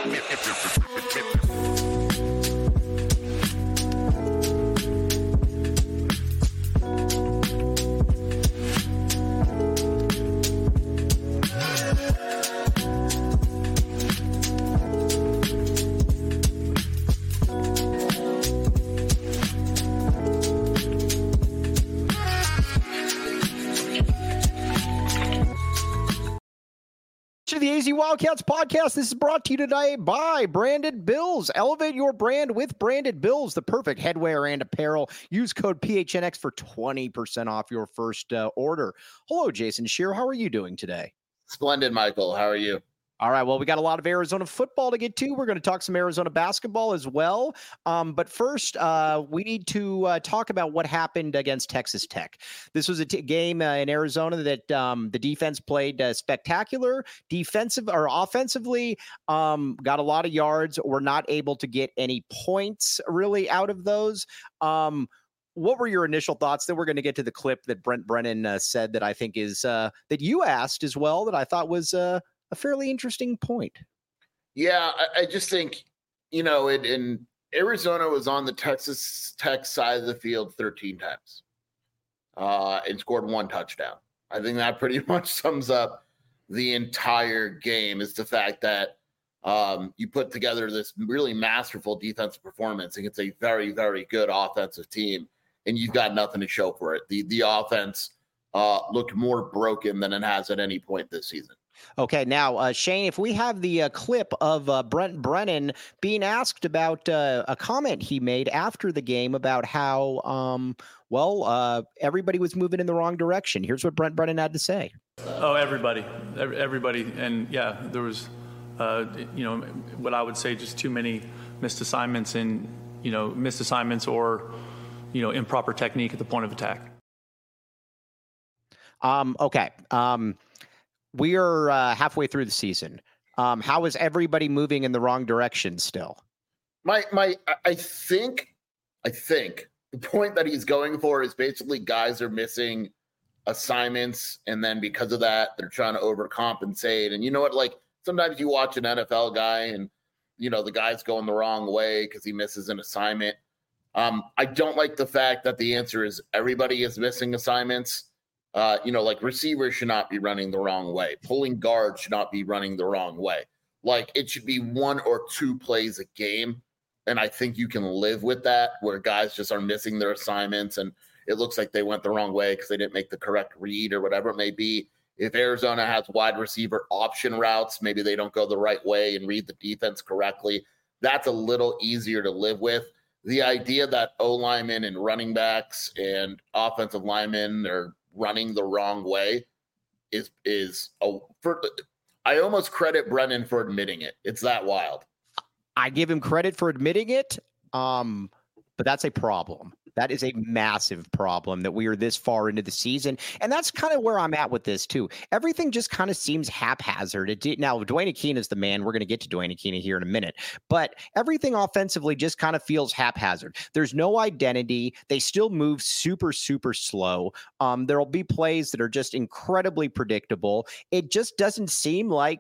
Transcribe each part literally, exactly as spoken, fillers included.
To the A Z Wildcats podcast. This is brought to you today by Branded Bills. Elevate your brand with Branded Bills, the perfect headwear and apparel. Use code P H N X for twenty percent off your first uh, order. Hello, Jason Scheer. How are you doing today? Splendid, Michael. How are you? All right, well, we got a lot of Arizona football to get to. We're going to talk some Arizona basketball as well. Um, but first, uh, we need to uh, talk about what happened against Texas Tech. This was a t- game uh, in Arizona that um, the defense played uh, spectacular. Defensive or offensively, um, got a lot of yards. Were not able to get any points really out of those. Um, What were your initial thoughts? Then we're going to get to the clip that Brent Brennan uh, said that I think is uh, that you asked as well that I thought was uh, a fairly interesting point. Yeah, I, I just think, you know, in, in Arizona was on the Texas Tech side of the field thirteen times uh, and scored one touchdown. I think that pretty much sums up the entire game, is the fact that um, you put together this really masterful defensive performance against a very, very good offensive team, and you've got nothing to show for it. The, the offense uh, looked more broken than it has at any point this season. Okay, now, uh, Shane, if we have the uh, clip of uh, Brent Brennan being asked about uh, a comment he made after the game about how, um, well, uh, everybody was moving in the wrong direction. Here's what Brent Brennan had to say. Oh, everybody, everybody. And yeah, there was, uh, you know, what I would say just too many missed assignments and, you know, missed assignments or, you know, improper technique at the point of attack. Um, okay. Um, We are uh, halfway through the season. Um, how is everybody moving in the wrong direction still? My, my, I think, I think the point that he's going for is basically guys are missing assignments, and then because of that, they're trying to overcompensate. And you know what? Like sometimes you watch an N F L guy, and you know the guy's going the wrong way because he misses an assignment. Um, I don't like the fact that the answer is everybody is missing assignments. Uh, you know, like receivers should not be running the wrong way. Pulling guards should not be running the wrong way. Like it should be one or two plays a game. And I think you can live with that, where guys just are missing their assignments and it looks like they went the wrong way because they didn't make the correct read or whatever it may be. If Arizona has wide receiver option routes, maybe they don't go the right way and read the defense correctly. That's a little easier to live with. The idea that O linemen and running backs and offensive linemen are running the wrong way is is a for, I almost credit Brennan for admitting it. It's that wild. I give him credit for admitting it, um, but that's a problem. That is a massive problem that we are this far into the season. And that's kind of where I'm at with this too. Everything just kind of seems haphazard. It did, now, Dwayne Akina is the man. We're going to get to Dwayne Akina here in a minute. But everything offensively just kind of feels haphazard. There's no identity. They still move super, super slow. Um, there'll be plays that are just incredibly predictable. It just doesn't seem like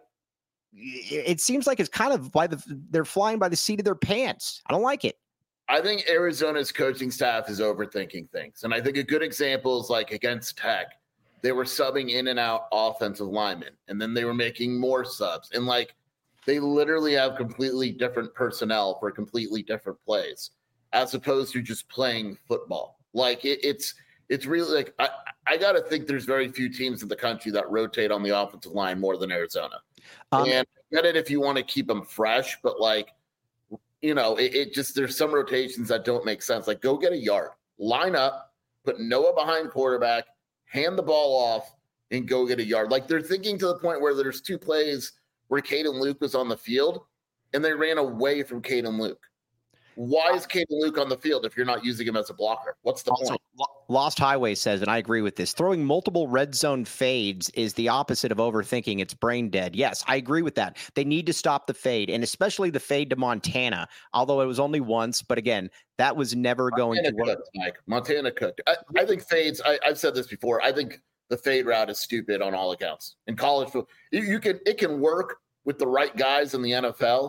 it seems like it's kind of by the they're flying by the seat of their pants. I don't like it. I think Arizona's coaching staff is overthinking things. And I think a good example is like against Tech, they were subbing in and out offensive linemen, and then they were making more subs. And like, they literally have completely different personnel for completely different plays, as opposed to just playing football. Like it, it's, it's really like, I, I got to think there's very few teams in the country that rotate on the offensive line more than Arizona. Um, and I get it if you want to keep them fresh, but like, you know, it, it just, there's some rotations that don't make sense. Like go get a yard, line up, put Noah behind quarterback, hand the ball off and go get a yard. Like they're thinking to the point where there's two plays where Caden Luke was on the field and they ran away from Caden Luke. Why is Caden Luke on the field if you're not using him as a blocker? What's the also, point? Lost Highway says, and I agree with this, throwing multiple red zone fades is the opposite of overthinking. It's brain dead. Yes, I agree with that. They need to stop the fade, and especially the fade to Montana, although it was only once. But again, that was never going Montana to work. Cooked, Mike. Montana cooked. I, I think fades, I, I've said this before, I think the fade route is stupid on all accounts. In college, you, you can it can work with the right guys in the N F L,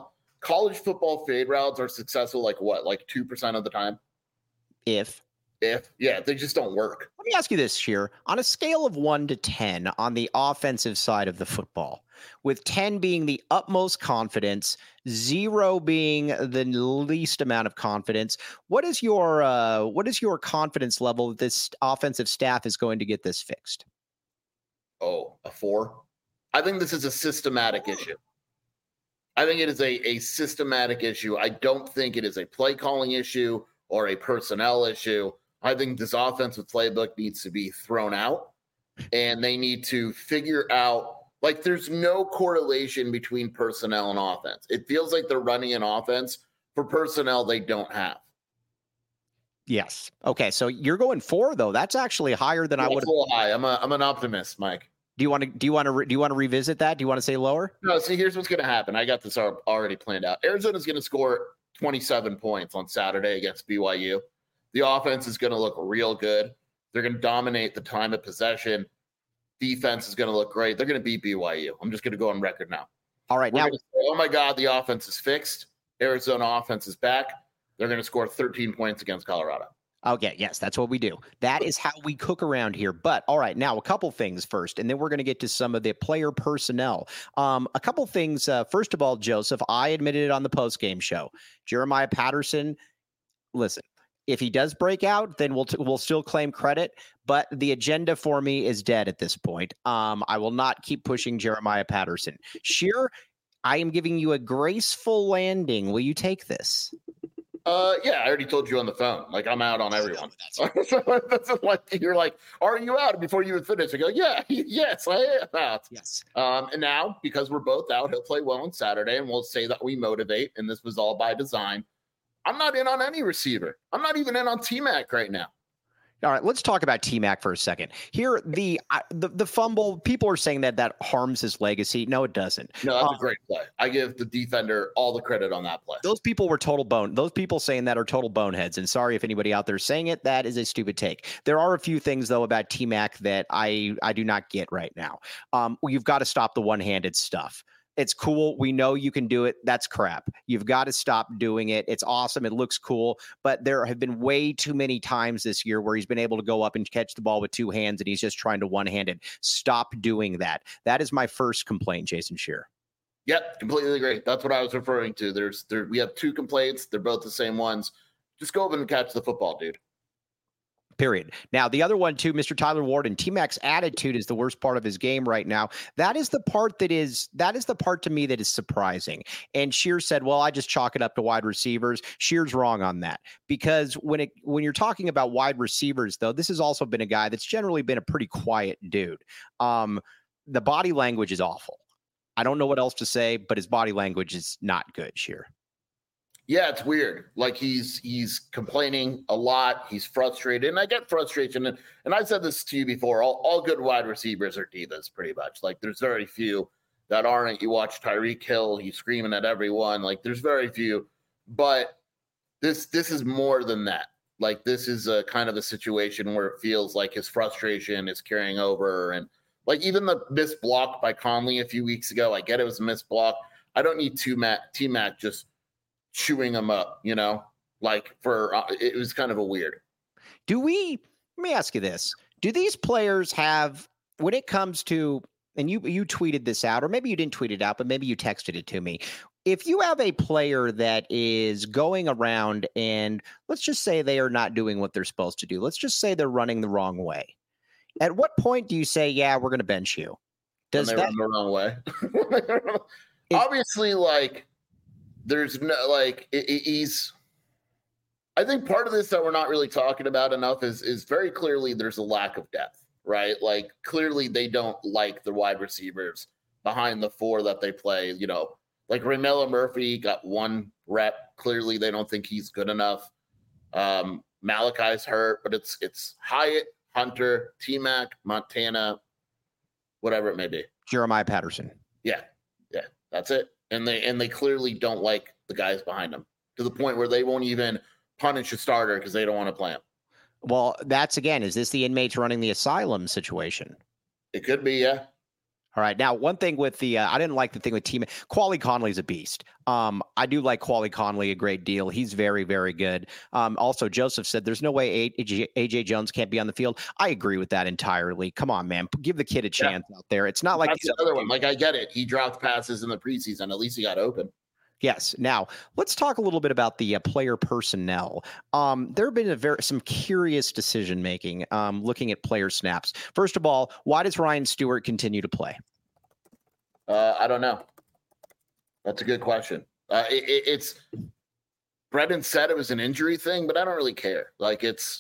college football fade routes are successful like what, like two percent of the time? If. If, yeah, they just don't work. Let me ask you this, Sheer. On a scale of one to ten on the offensive side of the football, with ten being the utmost confidence, zero being the least amount of confidence, what is your uh, what is your confidence level that this offensive staff is going to get this fixed? Oh, a four? I think this is a systematic issue. I think it is a, a systematic issue. I don't think it is a play calling issue or a personnel issue. I think this offensive playbook needs to be thrown out, and they need to figure out, like, there's no correlation between personnel and offense. It feels like they're running an offense for personnel they don't have. Yes. Okay. So you're going four, though. That's actually higher than That's I would. A little high. I'm a I'm an optimist, Mike. Do you want to? Do you want to? Re, do you want to revisit that? Do you want to say lower? No. See, here's what's going to happen. I got this already planned out. Arizona's going to score twenty-seven points on Saturday against B Y U. The offense is going to look real good. They're going to dominate the time of possession. Defense is going to look great. They're going to beat B Y U. I'm just going to go on record now. All right. We're now, say, oh my God, the offense is fixed. Arizona offense is back. They're going to score thirteen points against Colorado. Okay, yes, that's what we do. That is how we cook around here. But all right, now a couple things first, and then we're going to get to some of the player personnel. Um, a couple things. Uh, first of all, Joseph, I admitted it on the post-game show. Jeremiah Patterson, listen, if he does break out, then we'll t- we'll still claim credit. But the agenda for me is dead at this point. Um, I will not keep pushing Jeremiah Patterson. Sheer, I am giving you a graceful landing. Will you take this? Uh, yeah, I already told you on the phone. Like, I'm out on everyone. That's like, you're like, are you out? Before you would finish, I go, yeah, yes, I am out. Yes. Um, and now, because we're both out, he'll play well on Saturday, and we'll say that we motivate, and this was all by design. I'm not in on any receiver. I'm not even in on T-Mac right now. All right, let's talk about T-Mac for a second. Here, the, uh, the the fumble, people are saying that that harms his legacy. No, it doesn't. No, that's um, a great play. I give the defender all the credit on that play. Those people were total bone. Those people saying that are total boneheads. And sorry if anybody out there saying it, that is a stupid take. There are a few things, though, about T-Mac that I, I do not get right now. Um, well, you've got to stop the one-handed stuff. It's cool. We know you can do it. That's crap. You've got to stop doing it. It's awesome. It looks cool. But there have been way too many times this year where he's been able to go up and catch the ball with two hands and he's just trying to one-handed. Stop doing that. That is my first complaint, Jason Shearer. Yep, completely agree. That's what I was referring to. There's there we have two complaints. They're both the same ones. Just go over and catch the football, dude. Period. Now, the other one, too, Mister Tyler Warden, T-Mac's attitude is the worst part of his game right now. That is the part that is, that is the part to me that is surprising. And Shear said, well, I just chalk it up to wide receivers. Shear's wrong on that. Because when it, when you're talking about wide receivers, though, this has also been a guy that's generally been a pretty quiet dude. Um, the body language is awful. I don't know what else to say, but his body language is not good, Shear. Yeah, it's weird. Like he's he's complaining a lot. He's frustrated. And I get frustration. And, and I've said this to you before. All, all good wide receivers are divas, pretty much. Like there's very few that aren't. You watch Tyreek Hill, he's screaming at everyone. Like there's very few. But this this is more than that. Like this is a kind of a situation where it feels like his frustration is carrying over. And like even the missed block by Conley a few weeks ago, I get it was a missed block. I don't need T-Mac, T-Mac just chewing them up, you know, like for, uh, it was kind of a weird. Do we, let me ask you this. Do these players have, when it comes to, and you, you tweeted this out, or maybe you didn't tweet it out, but maybe you texted it to me. If you have a player that is going around and let's just say they are not doing what they're supposed to do. Let's just say they're running the wrong way. At what point do you say, yeah, we're going to bench you? Does when they that run the wrong way? Obviously, like, there's no, like, it, it, he's, I think part of this that we're not really talking about enough is, is very clearly there's a lack of depth, right? Like, clearly they don't like the wide receivers behind the four that they play, you know, like Ramella Murphy got one rep. Clearly they don't think he's good enough. Um, Malachi's hurt, but it's, it's Hyatt, Hunter, T-Mac, Montana, whatever it may be. Jeremiah Patterson. Yeah. Yeah. That's it. And they and they clearly don't like the guys behind them to the point where they won't even punish a starter because they don't want to play him. Well, that's again, is this the inmates running the asylum situation? It could be, yeah. All right. Now, one thing with the, uh, I didn't like the thing with team. Quali Conley's a beast. Um, I do like Quali Conley a great deal. He's very, very good. Um, also, Joseph said there's no way A J Jones can't be on the field. I agree with that entirely. Come on, man. Give the kid a chance yeah. out there. It's not like That's the other one. Like, I get it. He dropped passes in the preseason. At least he got open. Yes. Now, let's talk a little bit about the uh, player personnel. Um, there have been a very, some curious decision making um, looking at player snaps. First of all, why does Ryan Stewart continue to play? Uh, I don't know. That's a good question. Uh, it, it, it's Brendan said it was an injury thing, but I don't really care. Like, it's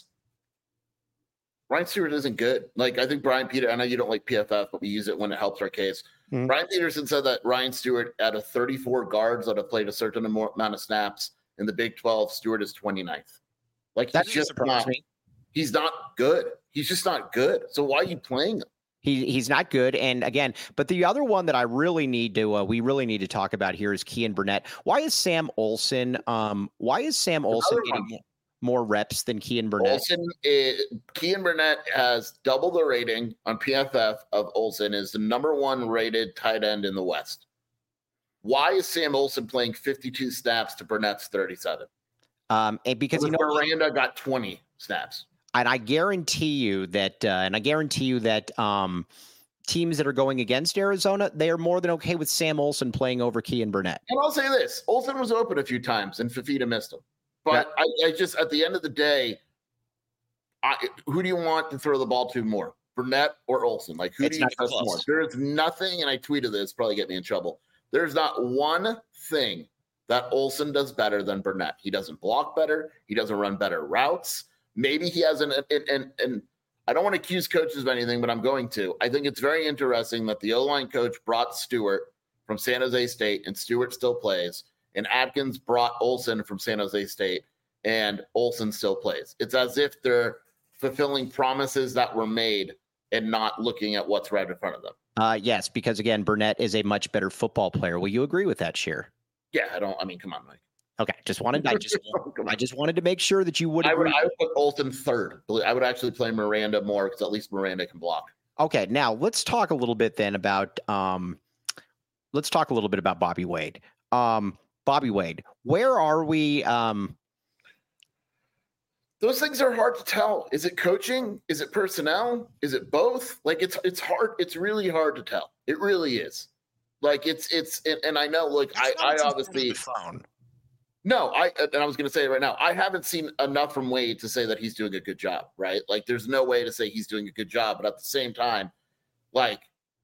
Ryan Stewart isn't good. Like, I think Brian Peter, I know you don't like P F F, but we use it when it helps our case. Mm-hmm. Brian Peterson said that Ryan Stewart, out of thirty-four guards that have played a certain amount of snaps in the Big twelve, Stewart is twenty-ninth. Like, that he's just not, me. he's not good. He's just not good. So why are you playing him? He he's not good. And again, but the other one that I really need to, uh, we really need to talk about here is Kean Burnett. Why is Sam Olson, um, why is Sam Olson getting one. more reps than Kean Burnett? Olson is, Kean Burnett has double the rating on P F F of Olson, is the number one rated tight end in the West. Why is Sam Olson playing fifty-two snaps to Burnett's thirty-seven? Um, and because, because you know, Miranda got twenty snaps. And I guarantee you that, uh, and I guarantee you that um, teams that are going against Arizona, they are more than okay with Sam Olson playing over Kean Burnett. And I'll say this: Olson was open a few times, and Fifita missed him. But yeah. I, I just, at the end of the day, I, who do you want to throw the ball to more, Burnett or Olson? Like, who it's do you trust close. more? There's nothing, and I tweeted this, probably get me in trouble. There's not one thing that Olson does better than Burnett. He doesn't block better. He doesn't run better routes. Maybe he has an, and, and, and I don't want to accuse coaches of anything, but I'm going to. I think it's very interesting that the O-line coach brought Stewart from San Jose State, and Stewart still plays. And Atkins brought Olson from San Jose State, and Olson still plays. It's as if they're fulfilling promises that were made and not looking at what's right in front of them. Uh, yes, because, again, Burnett is a much better football player. Will you agree with that, Sheer? Yeah, I don't – I mean, come on, Mike. Okay, just wanted I just I just wanted to make sure that you would. I would, I would put Olson third. I would actually play Miranda more because at least Miranda can block. Okay, now let's talk a little bit then about um, let's talk a little bit about Bobby Wade. Um, Bobby Wade, where are we? Um, Those things are hard to tell. Is it coaching? Is it personnel? Is it both? Like it's it's hard. It's really hard to tell. It really is. Like it's it's and, and I know. Like I I obviously. Phone. No, I and I was going to say it right now. I haven't seen enough from Wade to say that he's doing a good job, right? Like, there's no way to say he's doing a good job, but at the same time, like,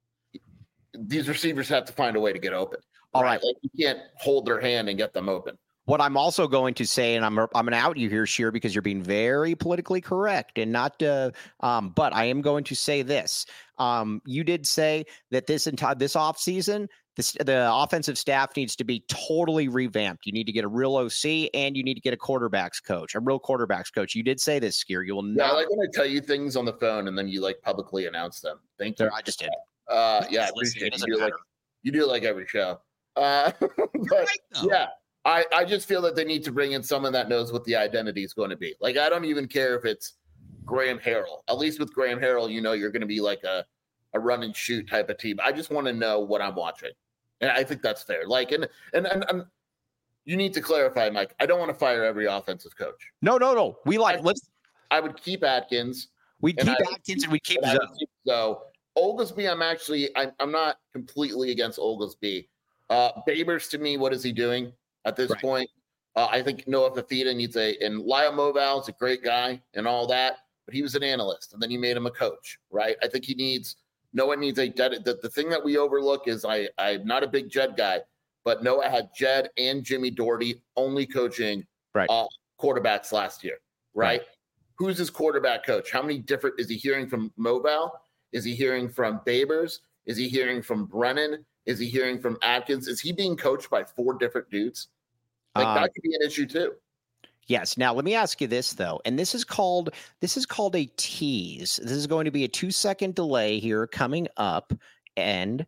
these receivers have to find a way to get open. All right, right? Like, you can't hold their hand and get them open. What I'm also going to say, and I'm I'm going to out you here, Sheer, because you're being very politically correct and not. Uh, um, but I am going to say this. Um, you did say that this entire this offseason, this the offensive staff needs to be totally revamped. You need to get a real O C and you need to get a quarterbacks coach, a real quarterbacks coach. You did say this, Skier. You will not. Yeah, I like when I tell you things on the phone and then you like publicly announce them. Thank you. I just did. Uh, yeah, I appreciate it. You do, like, you do it like every show. Uh, but right, yeah. I, I just feel that they need to bring in someone that knows what the identity is going to be. Like, I don't even care if it's Graham Harrell. At least with Graham Harrell, you know you're going to be like a, a run and shoot type of team. I just want to know what I'm watching. And I think that's fair. Like, and, and, and, and you need to clarify, Mike. I don't want to fire every offensive coach. No, no, no. We like, I, let's. I would keep Atkins. We'd keep I, Atkins and we'd keep Zoe. So, Oglesby, I'm actually, I'm, I'm not completely against Oglesby. Uh, Babers, to me, what is he doing? At this right. point, uh, I think Noah Fifita needs a, and Lyle Moval is a great guy and all that, but he was an analyst and then you made him a coach, right? I think he needs, Noah needs a, the, the thing that we overlook is I, I'm not a big Jed guy, but Noah had Jed and Jimmy Doherty only coaching right. uh, quarterbacks last year, right? right? Who's his quarterback coach? How many different, is he hearing from Moval? Is he hearing from Babers? Is he hearing from Brennan? Is he hearing from Atkins? Is he being coached by four different dudes? Like um, that could be an issue too. Yes. Now let me ask you this though, and this is called this is called a tease. This is going to be a two second delay here coming up, and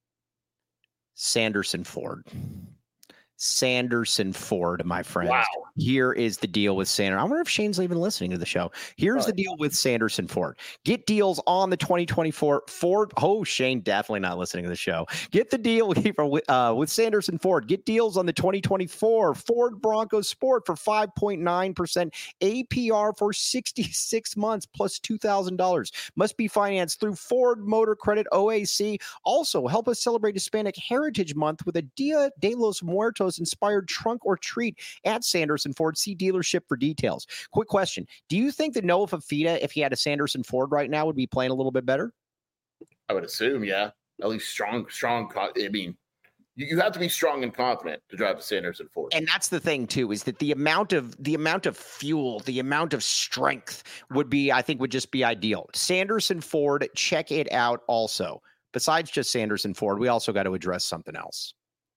Sanderson Ford. Sanderson Ford, my friend. Wow. Here is the deal with Sanderson. I wonder if Shane's even listening to the show. Here's the deal with Sanderson Ford. Get deals on the twenty twenty-four Ford. Oh, Shane definitely not listening to the show. Get the deal with, uh, with Sanderson Ford. Get deals on the twenty twenty-four Ford Bronco Sport for five point nine percent A P R for sixty-six months plus two thousand dollars. Must be financed through Ford Motor Credit O A C. Also, help us celebrate Hispanic Heritage Month with a Dia de los Muertos inspired trunk or treat at Sanderson Ford. See dealership for details. Quick question. Do you think that Noah Fafita, if he had a Sanderson Ford right now, would be playing a little bit better? I would assume, yeah. At least strong, strong. I mean, you, you have to be strong and confident to drive a Sanderson Ford. And that's the thing too, is that the amount of the amount of fuel, the amount of strength would be, I think, would just be ideal. Sanderson Ford, check it out also. Besides just Sanderson Ford, we also got to address something else.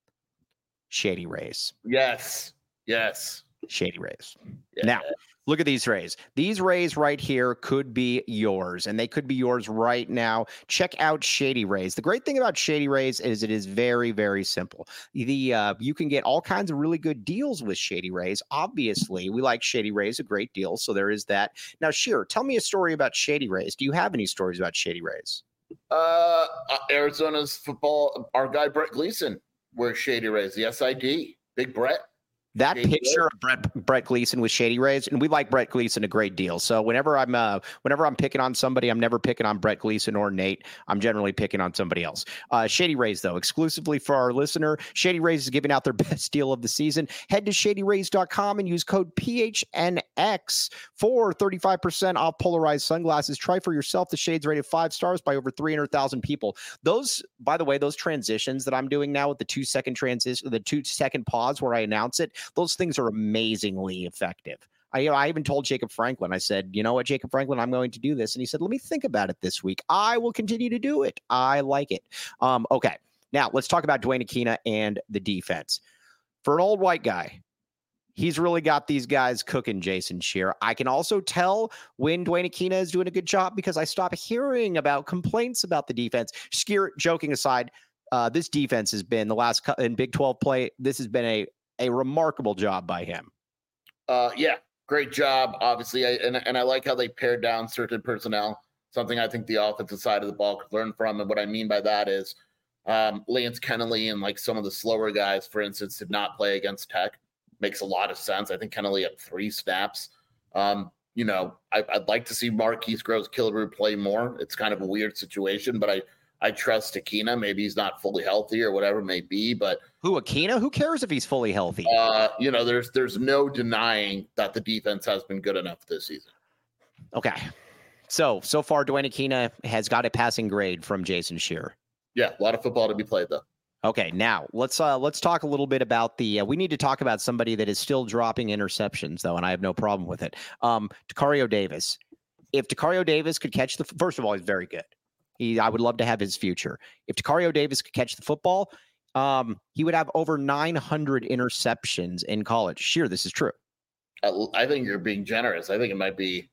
Shady Rays. Yes. Yes. Shady Rays. Yeah. Now, look at these rays. These rays right here could be yours, and they could be yours right now. Check out Shady Rays. The great thing about Shady Rays is it is very, very simple. The uh, you can get all kinds of really good deals with Shady Rays. Obviously, we like Shady Rays a great deal, so there is that. Now, Sheer, tell me a story about Shady Rays. Do you have any stories about Shady Rays? Uh, Arizona's football, our guy Brett Gleason wears Shady Rays, the S I D. Big Brett. That Shady picture Rays. of Brett Brett Gleason with Shady Rays, and we like Brett Gleason a great deal. So whenever I'm uh, whenever I'm picking on somebody, I'm never picking on Brett Gleason or Nate. I'm generally picking on somebody else. Uh, Shady Rays, though, exclusively for our listener, Shady Rays is giving out their best deal of the season. Head to shady rays dot com and use code P H N X for thirty-five percent off polarized sunglasses. Try for yourself. The shades rated five stars by over three hundred thousand people. Those, by the way, those transitions that I'm doing now with the two second transition, the two second pause where I announce it, those things are amazingly effective. I, you know, I even told Jacob Franklin, I said, you know what, Jacob Franklin, I'm going to do this. And he said, let me think about it this week. I will continue to do it. I like it. Um, okay. Now let's talk about Dwayne Aquina and the defense. For an old white guy, he's really got these guys cooking, Jason Scheer. I can also tell when Dwayne Aquina is doing a good job because I stop hearing about complaints about the defense. Scheer, joking aside, uh, this defense has been the last cu- in Big twelve play. This has been a, a remarkable job by him. Uh, yeah, great job, obviously. I, and, and I like how they pared down certain personnel, something I think the offensive side of the ball could learn from. And what I mean by that is um, Lance Kennelly and like some of the slower guys, for instance, did not play against Tech. Makes a lot of sense. I think Kennelly had three snaps. Um, you know, I, I'd like to see Marquise Gross-Killebrew play more. It's kind of a weird situation, but I, I trust Aquina. Maybe he's not fully healthy or whatever it may be, but Who, Aquina? Who cares if he's fully healthy? uh, you know, there's there's no denying that the defense has been good enough this season. Okay. So, so far, Dwayne Aquina has got a passing grade from Jason Scheer. Yeah, a lot of football to be played, though. Okay, now let's uh, let's talk a little bit about the. Uh, we need to talk about somebody that is still dropping interceptions, though, and I have no problem with it. Um, Tacario Davis. If Tacario Davis could catch the, first of all, he's very good. He, I would love to have his future. If Tacario Davis could catch the football, um, he would have over nine hundred interceptions in college. Sure, this is true. I, I think you're being generous. I think it might be.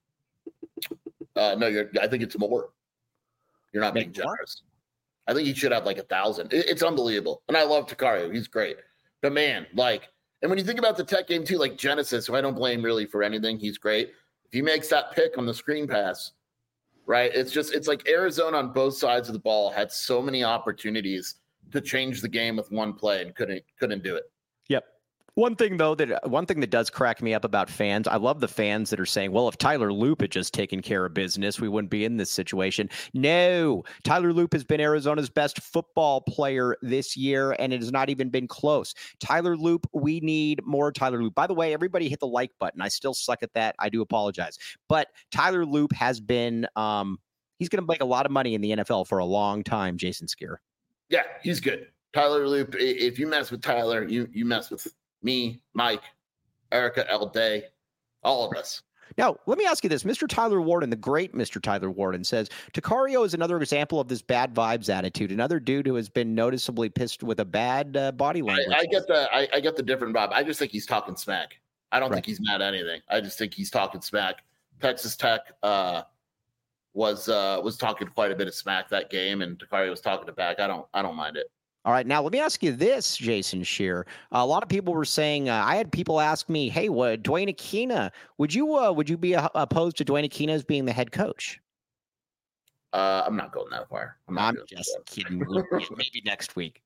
Uh, no, you're. I think it's more. You're not being Make more? generous. I think he should have like a thousand. It, it's unbelievable, and I love Tacario. He's great. But man, like, and when you think about the Tech game too, like Genesis, who I don't blame really for anything, he's great. If he makes that pick on the screen pass, right? It's just it's like Arizona on both sides of the ball had so many opportunities to change the game with one play and couldn't couldn't do it. Yep. One thing though that one thing that does crack me up about fans, I love the fans that are saying, well, if Tyler Loop had just taken care of business, we wouldn't be in this situation. No, Tyler Loop has been Arizona's best football player this year, and it has not even been close. Tyler Loop, we need more Tyler Loop. By the way, everybody hit the like button. I still suck at that. I do apologize. But Tyler Loop has been, um, he's going to make a lot of money in the N F L for a long time, Jason Scheer. Yeah, he's good. Tyler Loop, if you mess with Tyler, you you mess with me, Mike, Erica, L. Day, all of us. Now, let me ask you this. Mister Tyler Warden, the great Mister Tyler Warden, says, Tacario is another example of this bad vibes attitude. Another dude who has been noticeably pissed with a bad uh, body language. I, I get the I, I get the different vibe. I just think he's talking smack. I don't Right. think he's mad at anything. I just think he's talking smack. Texas Tech uh, was uh, was talking quite a bit of smack that game, and Tacario was talking it back. I don't I don't mind it. All right, now let me ask you this, Jason Scheer. A lot of people were saying, uh, I had people ask me, "Hey, what Dwayne Aquina? Would you uh, would you be uh, opposed to Dwayne Aquina as being the head coach?" Uh, I'm not going that far. I'm, not I'm doing just that. kidding. Maybe next week.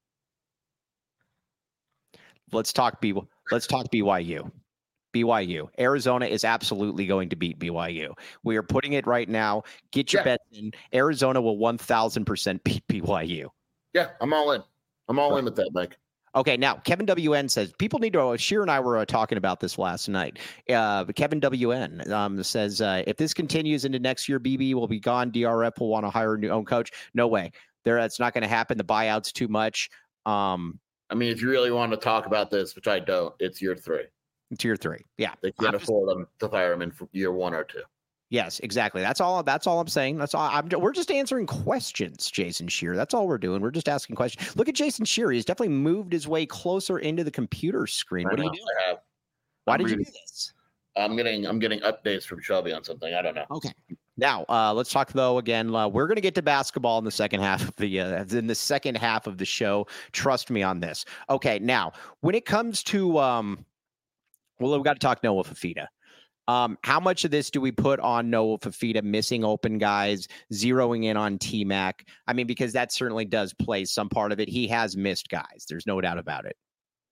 Let's talk B. Let's talk B Y U. B Y U. Arizona is absolutely going to beat B Y U. We are putting it right now. Get your Yeah. bets in. Arizona will one thousand percent beat B Y U. Yeah, I'm all in. I'm all in with that, Mike. Okay, now Kevin W N says people need to. Sheer and I were uh, talking about this last night. Uh, Kevin W N um, says uh, if this continues into next year, B B will be gone. D R F will want to hire a new own coach. No way. There, that's not going to happen. The buyout's too much. Um, I mean, if you really want to talk about this, which I don't, it's year three. Tier three, yeah. They can't I'm just- afford them to fire him in for year one or two. Yes, exactly. That's all. That's all I'm saying. That's all. I'm, we're just answering questions, Jason Scheer. That's all we're doing. We're just asking questions. Look at Jason Scheer. He's definitely moved his way closer into the computer screen. I What are know, you doing? I have. Why I'm did you reading- do this? I'm getting I'm getting updates from Shelby on something. I don't know. Okay. Now, uh, let's talk though again. Uh, we're going to get to basketball in the second half of the uh, in the second half of the show. Trust me on this. Okay. Now, when it comes to um, well, we've got to talk Noah Fafita. Um, how much of this do we put on Noah Fafita missing open guys, zeroing in on T-Mac? I mean, because that certainly does play some part of it. He has missed guys. There's no doubt about it.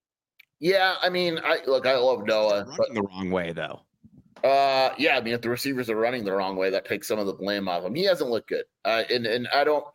Yeah, I mean, I look, I love Noah, Running but the wrong way though. uh, yeah, I mean, if the receivers are running the wrong way, that takes some of the blame off him. He hasn't looked good, uh, and and I don't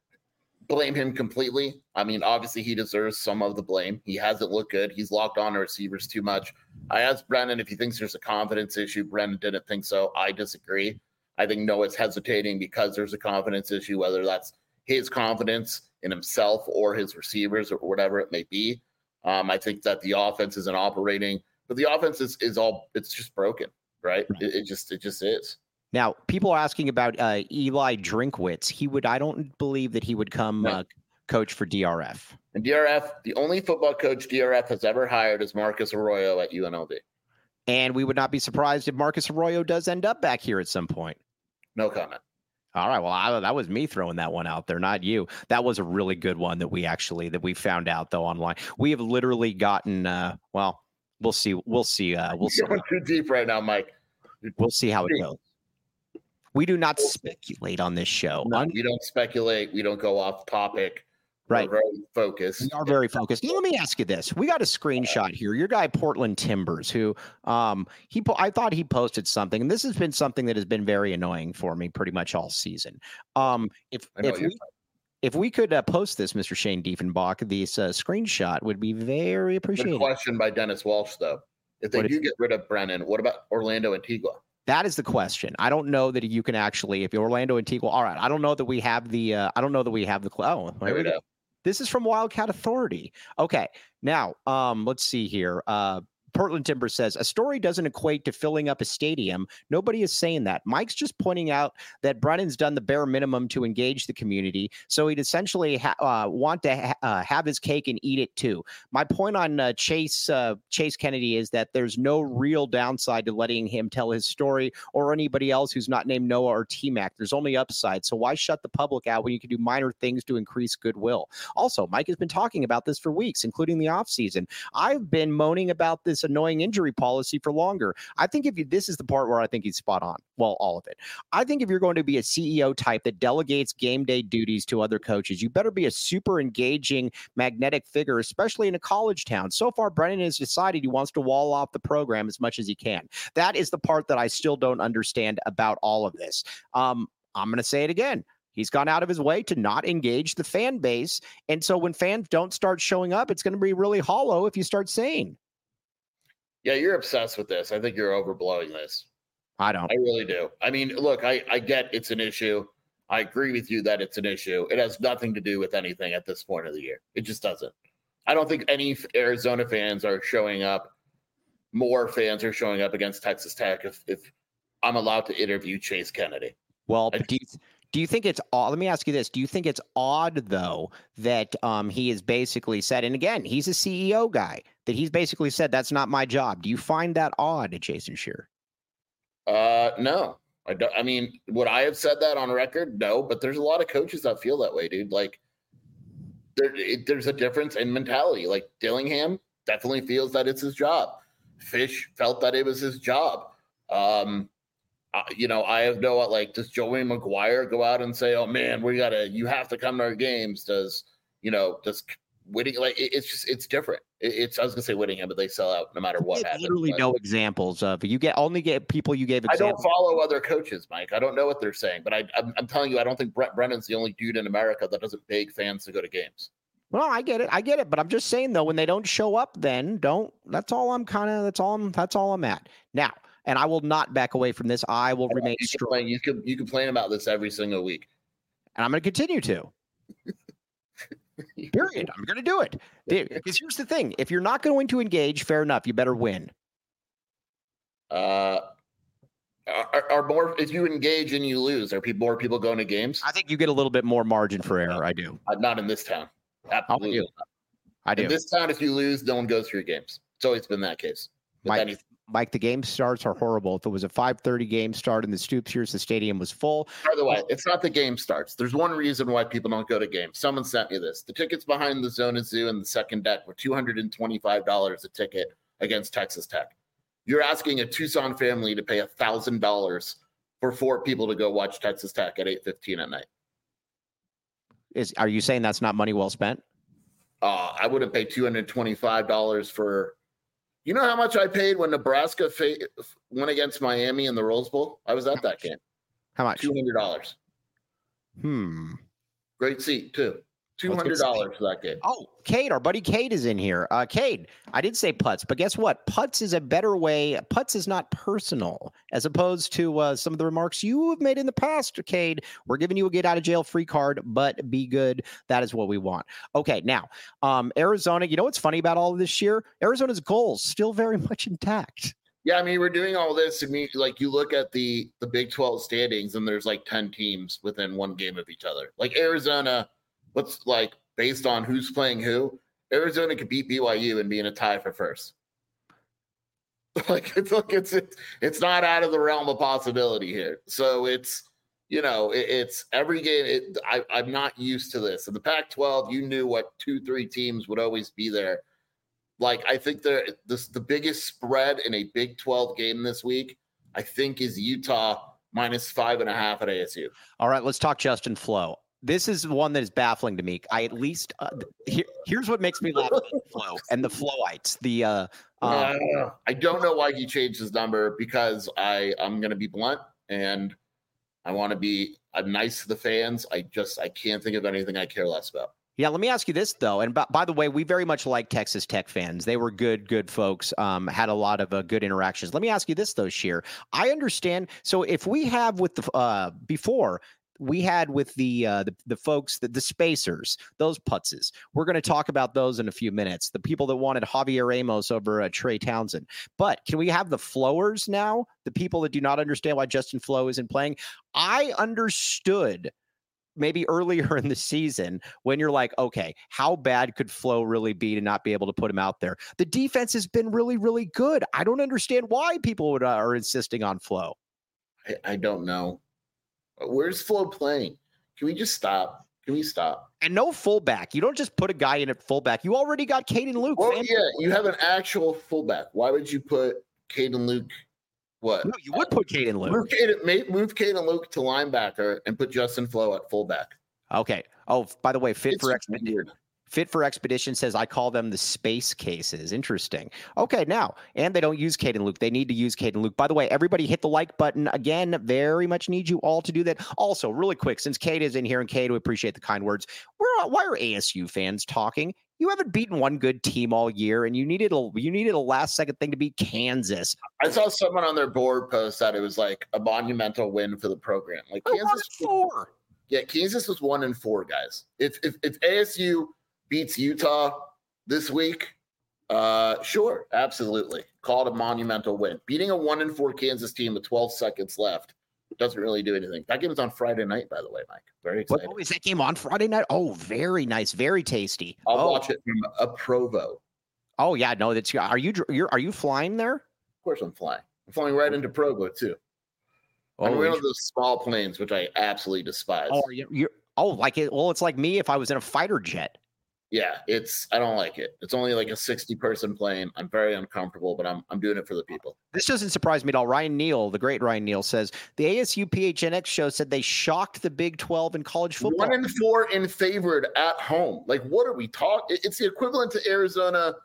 blame him completely. I mean, obviously, he deserves some of the blame. He hasn't looked good. He's locked on to receivers too much. I asked Brennan if he thinks there's a confidence issue. Brennan didn't think so. I disagree. I think Noah's hesitating because there's a confidence issue, whether that's his confidence in himself or his receivers or whatever it may be. Um, I think that the offense isn't operating, but the offense is, is all, it's just broken, right? Right. It, it just, it just is. Now, people are asking about uh, Eli Drinkwitz. He would, I don't believe that he would come No. uh, coach for D R F. And D R F, the only football coach D R F has ever hired is Marcus Arroyo at U N L V. And we would not be surprised if Marcus Arroyo does end up back here at some point. No comment. All right. Well, I, that was me throwing that one out there, not you. That was a really good one that we actually that we found out though online. We have literally gotten. Uh, well, we'll see. We'll see. Uh, we'll see. You're going too deep right now, Mike. We'll see how it goes. We do not speculate on this show. No, Un- we don't speculate. We don't go off topic. Right. We're very focused. We are very focused. Now, let me ask you this: we got a screenshot here. Your guy Portland Timbers, who um he po- I thought he posted something, and this has been something that has been very annoying for me pretty much all season. Um, if I know if you're we if we could uh, post this, Mister Shane Diefenbach, this uh, screenshot would be very Good appreciated. question by Dennis Walsh, though. If they What do is- get rid of Brennan, what about Orlando Antigua? That is the question. I don't know that you can actually, if you're Orlando Antigua, all right. I don't know that we have the. Uh, I don't know that we have the. Oh, There here we we go. go. This is from Wildcat Authority. Okay. Now, um, let's see here. Uh, Portland Timber says a story doesn't equate to filling up a stadium. Nobody is saying that. Mike's just pointing out that Brennan's done the bare minimum to engage the community, so he'd essentially ha- uh, want to ha- uh, have his cake and eat it too. My point on uh, Chase uh, Chase Kennedy is that there's no real downside to letting him tell his story or anybody else who's not named Noah or T-Mac. There's only upside. So why shut the public out when you can do minor things to increase goodwill? Also, Mike has been talking about this for weeks, including the offseason. I've been moaning about this annoying injury policy for longer. I think if you, this is the part where I think he's spot on. Well, all of it. I think if you're going to be a C E O type that delegates game day duties to other coaches, you better be a super engaging, magnetic figure, especially in a college town. So far, Brennan has decided he wants to wall off the program as much as he can. That is the part that I still don't understand about all of this. Um, I'm going to say it again. He's gone out of his way to not engage the fan base. And so when fans don't start showing up, it's going to be really hollow if you start saying. Yeah, you're obsessed with this. I think you're overblowing this. I don't. I really do. I mean, look, I, I get it's an issue. I agree with you that it's an issue. It has nothing to do with anything at this point of the year. It just doesn't. I don't think any Arizona fans are showing up. More fans are showing up against Texas Tech if, if I'm allowed to interview Chase Kennedy. Well, I- but do you, do you think it's odd? Let me ask you this. Do you think it's odd, though, that um, he has basically said, and again, he's a C E O guy, that he's basically said, that's not my job. Do you find that odd, Jason Scheer? Uh, no, I don't. I mean, would I have said that on record? No, but there's a lot of coaches that feel that way, dude. Like, there, it, there's a difference in mentality. Like Dillingham definitely feels that it's his job. Fish felt that it was his job. Um, uh, you know, I have no, like, does Joey Maguire go out and say, oh man, we gotta, you have to come to our games? Does, you know, does Whitting, like, it, it's just, it's different. It, it's, I was gonna say Whittingham, but they sell out no matter what There's happens. literally but no examples of, you get only get people you gave I examples. don't follow other coaches, Mike. I don't know what they're saying, but I, I'm, I'm telling you, I don't think Brent Brennan's the only dude in America that doesn't beg fans to go to games. Well, I get it. I get it. But I'm just saying, though, when they don't show up, then don't. That's all I'm kind of, that's all I'm, that's all I'm at. Now, and I will not back away from this. I will remain you strong. Complain, you, can, you complain about this every single week. And I'm going to continue to. Period. I'm going to do it. Because here's the thing. If you're not going to engage, fair enough. You better win. Uh, are, are more, if you engage and you lose, are people, more people going to games? I think you get a little bit more margin for error. I do. Uh, not in this town. Absolutely. do. I do. In this town, if you lose, no one goes to your games. It's always been that case. Mike, Mike, the game starts are horrible. If it was a five thirty game start in the Stoops here, the stadium was full. By the way, it's not the game starts. There's one reason why people don't go to games. Someone sent me this. The tickets behind the Zona Zoo and the second deck were two hundred twenty-five dollars a ticket against Texas Tech. You're asking a Tucson family to pay one thousand dollars for four people to go watch Texas Tech at eight fifteen at night. Is Are you saying that's not money well spent? Uh, I wouldn't pay two hundred twenty-five dollars for, you know how much I paid when Nebraska fa- went against Miami in the Rose Bowl? I was at that game. How much? two hundred dollars. Hmm. Great seat, too. two hundred dollars for that game. Oh, Cade, our buddy Cade is in here. Uh, Cade, I did say putts, but guess what? Putts is a better way. Putts is not personal, as opposed to uh, some of the remarks you have made in the past, Cade. We're giving you a get out of jail free card, but be good. That is what we want. Okay, now, um, Arizona, you know what's funny about all of this year? Arizona's goals still very much intact. Yeah, I mean, we're doing all this. I mean, like, you look at the, the Big twelve standings, and there's like ten teams within one game of each other. Like, Arizona, what's like, based on who's playing who, Arizona could beat B Y U and be in a tie for first. Like, it's like it's it's, it's not out of the realm of possibility here. So it's, you know, it, it's every game. It, I, I'm not used to this. In the Pac twelve, you knew what two, three teams would always be there. Like, I think the this the biggest spread in a Big twelve game this week, I think, is Utah minus five and a half at A S U. All right, let's talk Justin Flo. This is one that is baffling to me. I at least uh, here, here's what makes me laugh about Flo and the Flowites. The uh, uh, uh, I don't know why he changed his number, because I I'm gonna be blunt and I want to be I'm nice to the fans. I just I can't think of anything I care less about. Yeah, let me ask you this, though. And by, by the way, we very much like Texas Tech fans. They were good, good folks, um, had a lot of uh, good interactions. Let me ask you this, though, Sheer. I understand. So if we have with the uh, before, we had with the uh, the, the folks, the, the spacers, those putzes. We're going to talk about those in a few minutes. The people that wanted Javier Ramos over uh, Trey Townsend. But can we have the flowers now? The people that do not understand why Justin Flo isn't playing? I understood maybe earlier in the season when you're like, okay, how bad could Flo really be to not be able to put him out there? The defense has been really, really good. I don't understand why people would, uh, are insisting on Flo. I, I don't know. Where's Flo playing? Can we just stop? Can we stop? And no fullback. You don't just put a guy in at fullback. You already got Caden Luke. Well, yeah, you have an actual fullback. Why would you put Caden Luke? What? No, you would put Caden Luke. Move Caden, move Caden Luke to linebacker and put Justin Flo at fullback. Okay. Oh, by the way, fit It's for expedition. Fit for Expedition says, I call them the space cases. Interesting. Okay, now, and they don't use Caden Luke. They need to use Caden Luke. By the way, everybody hit the like button. Again, very much need you all to do that. Also, really quick, since Kate is in here, and Kate, we appreciate the kind words. We're, why are A S U fans talking? You haven't beaten one good team all year, and you needed a you needed a last second thing to beat Kansas. I saw someone on their board post that it was like a monumental win for the program. Like We're Kansas four. Yeah, Kansas was one and four, guys. If if, if A S U beats Utah this week, uh, sure, absolutely. Call it a monumental win. Beating a one and four Kansas team with twelve seconds left doesn't really do anything. That game is on Friday night, by the way, Mike. Very excited. What, oh, is that game on Friday night? Oh, very nice, very tasty. I'll oh. watch it from a Provo. Oh yeah, no, that's are you you're are you flying there? Of course, I'm flying. I'm flying right into Provo too. Oh, I'm one of those small planes, which I absolutely despise. Oh, you're, you're oh like it. Well, it's like me if I was in a fighter jet. Yeah, it's I don't like it. It's only like a sixty person plane. I'm very uncomfortable, but I'm I'm doing it for the people. This doesn't surprise me at all. Ryan Neal, the great Ryan Neal, says the A S U P H N X show said they shocked the Big twelve in college football. One and four in favored at home. Like, what are we talking? It's the equivalent to Arizona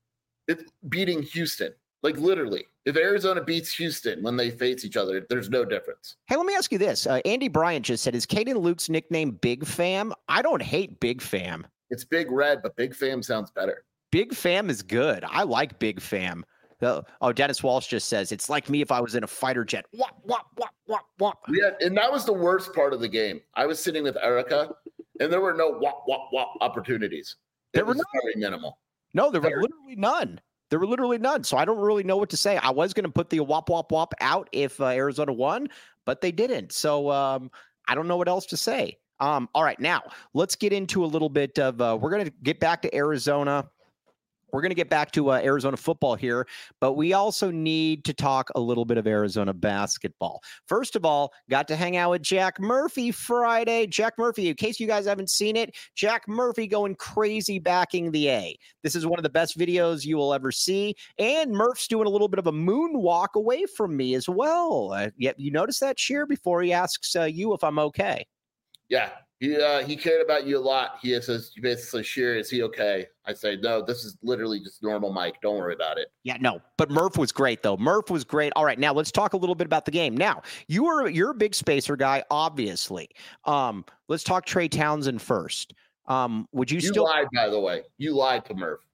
it, beating Houston. Like, literally, if Arizona beats Houston when they face each other, there's no difference. Hey, let me ask you this. Uh, Andy Bryant just said, is Caden Luke's nickname Big Fam? I don't hate Big Fam. It's Big Red, but Big Fam sounds better. Big Fam is good. I like Big Fam. Oh, oh, Dennis Walsh just says, it's like me if I was in a fighter jet. Wop, wop, wop, wop, wop. Yeah, and that was the worst part of the game. I was sitting with Erica, and there were no wop, wop, wop opportunities. It There were was none. very minimal. No, there were There- literally none. There were literally none. So I don't really know what to say. I was going to put the wop, wop, wop out if uh, Arizona won, but they didn't. So um, I don't know what else to say. Um, all right, now let's get into a little bit of, uh, we're going to get back to Arizona. We're going to get back to uh, Arizona football here, but we also need to talk a little bit of Arizona basketball. First of all, got to hang out with Jack Murphy Friday. Jack Murphy, in case you guys haven't seen it, Jack Murphy going crazy backing the A. This is one of the best videos you will ever see. And Murph's doing a little bit of a moonwalk away from me as well. Uh, yep, you notice that, Sheer, before he asks uh, you if I'm okay. Yeah, he uh, he cared about you a lot. He says, you basically, Sheer, is he okay? I say, no, this is literally just normal Mike. Don't worry about it. Yeah, no, but Murph was great though. Murph was great. All right, now let's talk a little bit about the game. Now, you are you're a big spacer guy, obviously. Um, let's talk Trey Townsend first. Um, would you, You still lied, by the way. You lied to Murph.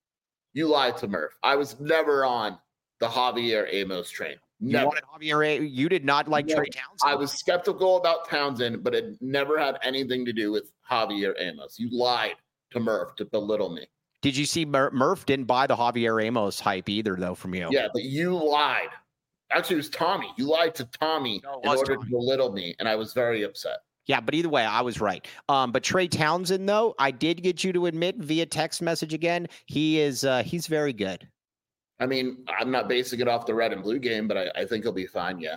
You lied to Murph. I was never on the Javier Amos train. you Never. wanted Javier? A- You did not like No, Trey Townsend. I was skeptical about Townsend, but it never had anything to do with Javier Amos. You lied to Murph to belittle me. Did you see Mur- Murph didn't buy the Javier Amos hype either, though, from you? Yeah, but you lied. Actually, it was Tommy. You lied to Tommy No, it in was order Tommy. to belittle me, and I was very upset. Yeah, but either way, I was right. Um, but Trey Townsend, though, I did get you to admit via text message again, he is uh, he's very good. I mean, I'm not basing it off the red and blue game, but I, I think he'll be fine. Yeah.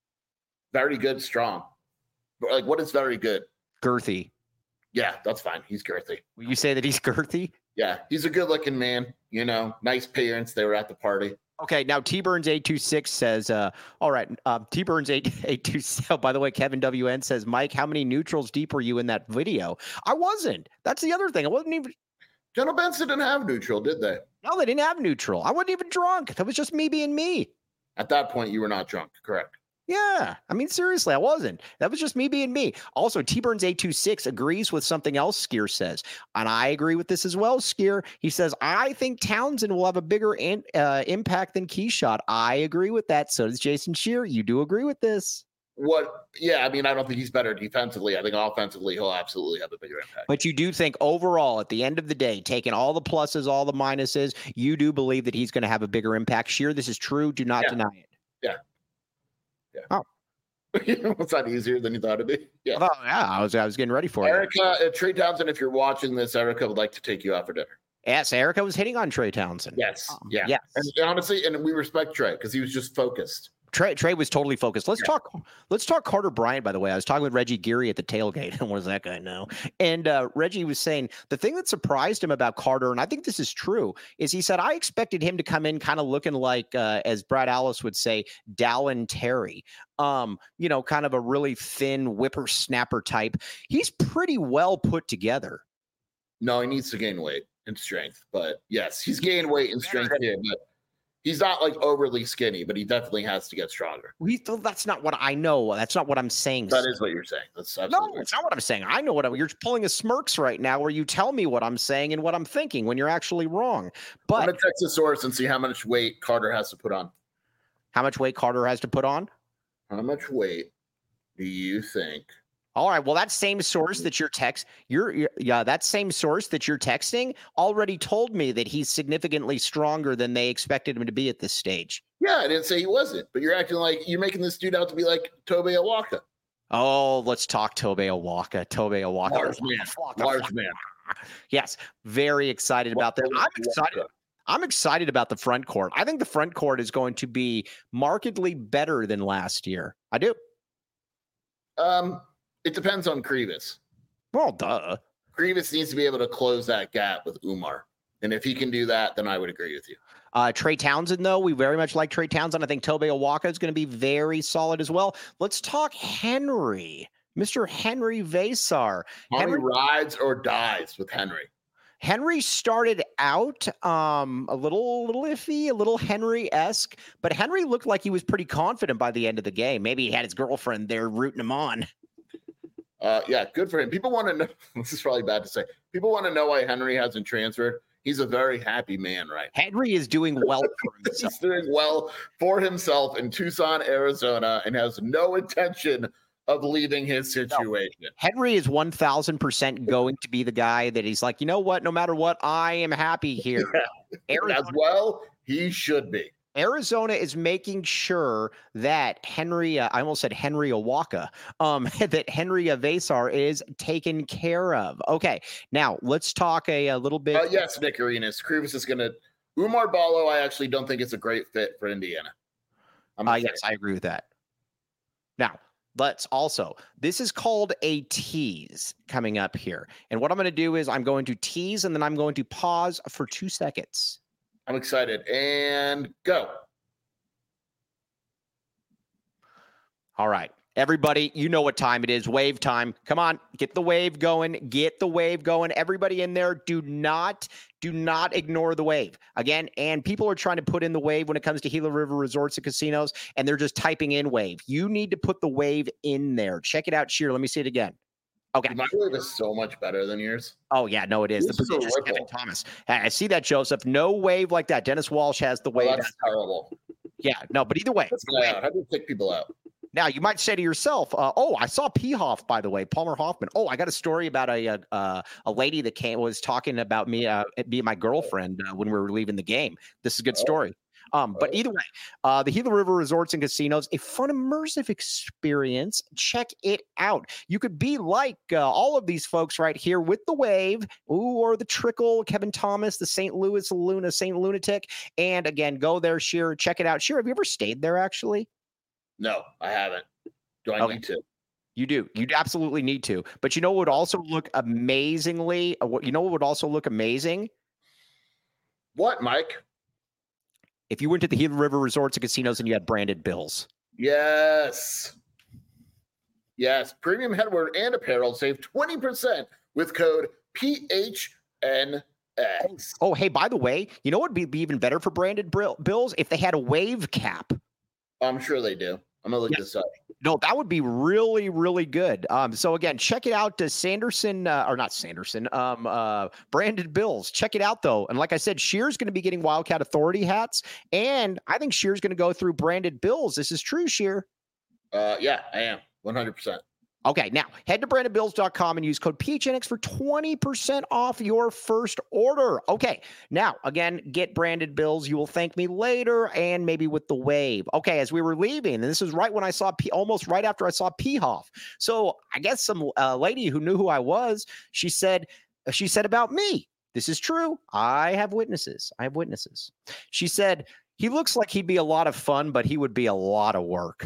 Very good, strong. But, like, what is very good? Girthy. Yeah, that's fine. He's girthy. Will you say that he's girthy? Yeah, he's a good looking man. You know, nice parents. They were at the party. Okay, now T Burns eight two six says, uh, all right, um, T Burns eight eight two six. Oh, by the way, Kevin W N says, Mike, how many neutrals deep were you in that video? I wasn't. That's the other thing. I wasn't even. General Benson didn't have neutral, did they? No, they didn't have neutral. I wasn't even drunk. That was just me being me. At that point, you were not drunk, correct? Yeah, I mean, seriously, I wasn't. That was just me being me. Also, T Burns eight two six agrees with something else Skier says, and I agree with this as well, Skier. He says, I think Townsend will have a bigger in, uh, impact than Keyshot. I agree with that. So does Jason Shear. You do agree with this. What? Yeah, I mean, I don't think he's better defensively. I think offensively, he'll absolutely have a bigger impact. But you do think overall, at the end of the day, taking all the pluses, all the minuses, you do believe that he's going to have a bigger impact. Shear, this is true. Do not Yeah. deny it. Yeah. Yeah. Oh. Was that easier than you thought it'd be? Yeah. Oh, yeah, I was I was getting ready for it. Erica, uh, Trey Townsend, if you're watching this, Erica would like to take you out for dinner. Yes, Erica was hitting on Trey Townsend. Yes. Um, Yeah. yes. And honestly, and we respect Trey because he was just focused. Trey Trey was totally focused. Let's Yeah. talk. Let's talk Carter Bryant. By the way, I was talking with Reggie Geary at the tailgate. And what does that guy know? And uh, Reggie was saying the thing that surprised him about Carter, and I think this is true, is he said I expected him to come in kind of looking like, uh, as Brad Allis would say, Dallin Terry. Um, you know, kind of a really thin whippersnapper type. He's pretty well put together. No, he needs to gain weight and strength. But yes, he's gained weight and strength here. But he's not like overly skinny, but he definitely has to get stronger. We, that's not what I know. That's not what I'm saying. That is what you're saying. That's No, absolutely it's not what I'm saying. I know what I'm, you're pulling a smirks right now where you tell me what I'm saying and what I'm thinking when you're actually wrong. I'm But going to text the source and see how much weight Carter has to put on. how much weight Carter has to put on? How much weight do you think? All right. Well, that same source that you're text, you're, you're yeah, that same source that you're texting already told me that he's significantly stronger than they expected him to be at this stage. Yeah, I didn't say he wasn't, but you're acting like you're making this dude out to be like Tobe Awaka. Oh, let's talk Tobe Awaka. Tobe Awaka. Large man. Awaka. Large man. Yes, very excited about that. I'm excited. I'm excited about the front court. I think the front court is going to be markedly better than last year. I do. Um, it depends on Krivas. Well, duh. Krivas needs to be able to close that gap with Umar. And if he can do that, then I would agree with you. Uh, Trey Townsend, though, we very much like Trey Townsend. I think Tobe Awaka is going to be very solid as well. Let's talk Henry, Mister Henry Versar. Henry rides or dies with Henry. Henry started out um, a little, little iffy, a little Henry-esque, but Henry looked like he was pretty confident by the end of the game. Maybe he had his girlfriend there rooting him on. Uh, yeah, good for him. People want to know. This is probably bad to say. People want to know why Henry hasn't transferred. He's a very happy man, right? Henry is doing well for himself. He's doing well for himself in Tucson, Arizona, and has no intention of leaving his situation. No. Henry is one thousand percent going to be the guy that he's like, you know what? No matter what, I am happy here. Yeah. As well, he should be. Arizona is making sure that Henry, uh, I almost said Henry Awaka, um, that Henry Versar is taken care of. Okay, now let's talk a, a little bit. Uh, yes, Nick Arenas. Krivas is going to. Umar Ballo, I actually don't think it's a great fit for Indiana. Uh, yes, I agree with that. Now, let's also, this is called a tease coming up here. And what I'm going to do is I'm going to tease and then I'm going to pause for two seconds. I'm excited. And go. All right. Everybody, you know what time it is. Wave time. Come on. Get the wave going. Get the wave going. Everybody in there, do not, do not ignore the wave. Again, and people are trying to put in the wave when it comes to Gila River Resorts and Casinos, and they're just typing in wave. You need to put the wave in there. Check it out, Sheer. Let me see it again. Okay. My wave is so much better than yours. Oh, yeah. No, it is. This the is a prodigious ripple. Kevin Thomas. I see that, Joseph. No wave like that. Dennis Walsh has the wave. Oh, that's terrible. Yeah. No, but either way. Let's go out. How do you pick people out? Now, you might say to yourself, uh, oh, I saw P. Hoff, by the way, Palmer Hoffman. Oh, I got a story about a a, uh, a lady that came was talking about me, uh, being my girlfriend uh, when we were leaving the game. This is a good story. Um, but either way, uh, the Gila River Resorts and Casinos, a fun, immersive experience. Check it out. You could be like uh, all of these folks right here with the wave, ooh, or the trickle, Kevin Thomas, the Saint Louis Luna, Saint Lunatic. And again, go there, Sheer, check it out. Sheer, have you ever stayed there actually? No, I haven't. Do I Okay. need to? You do. You absolutely need to. But you know what would also look amazingly, uh, what you know what would also look amazing? What, Mike? If you went to the Gila River Resorts and Casinos and you had branded bills. Yes. Yes. Premium headwear and apparel save twenty percent with code P H N X. Oh, hey, by the way, you know what would be, be even better for branded brill- bills? If they had a wave cap. I'm sure they do. I'm going to look Yes. this up. No, that would be really, really good. Um, so again, check it out to Sanderson, uh, or not Sanderson, um, uh, branded bills. Check it out though. And like I said, Sheer's going to be getting Wildcat Authority hats. And I think Sheer's going to go through branded bills. This is true, Sheer. Uh, yeah, I am. one hundred percent. Okay, now head to branded bills dot com and use code P H N X for twenty percent off your first order. Okay, now again, get branded bills. You will thank me later and maybe with the wave. Okay, as we were leaving, and this is right when I saw P, almost right after I saw P. Hoff. So I guess some uh, lady who knew who I was, she said, she said about me. This is true. I have witnesses. I have witnesses. She said, he looks like he'd be a lot of fun, but he would be a lot of work.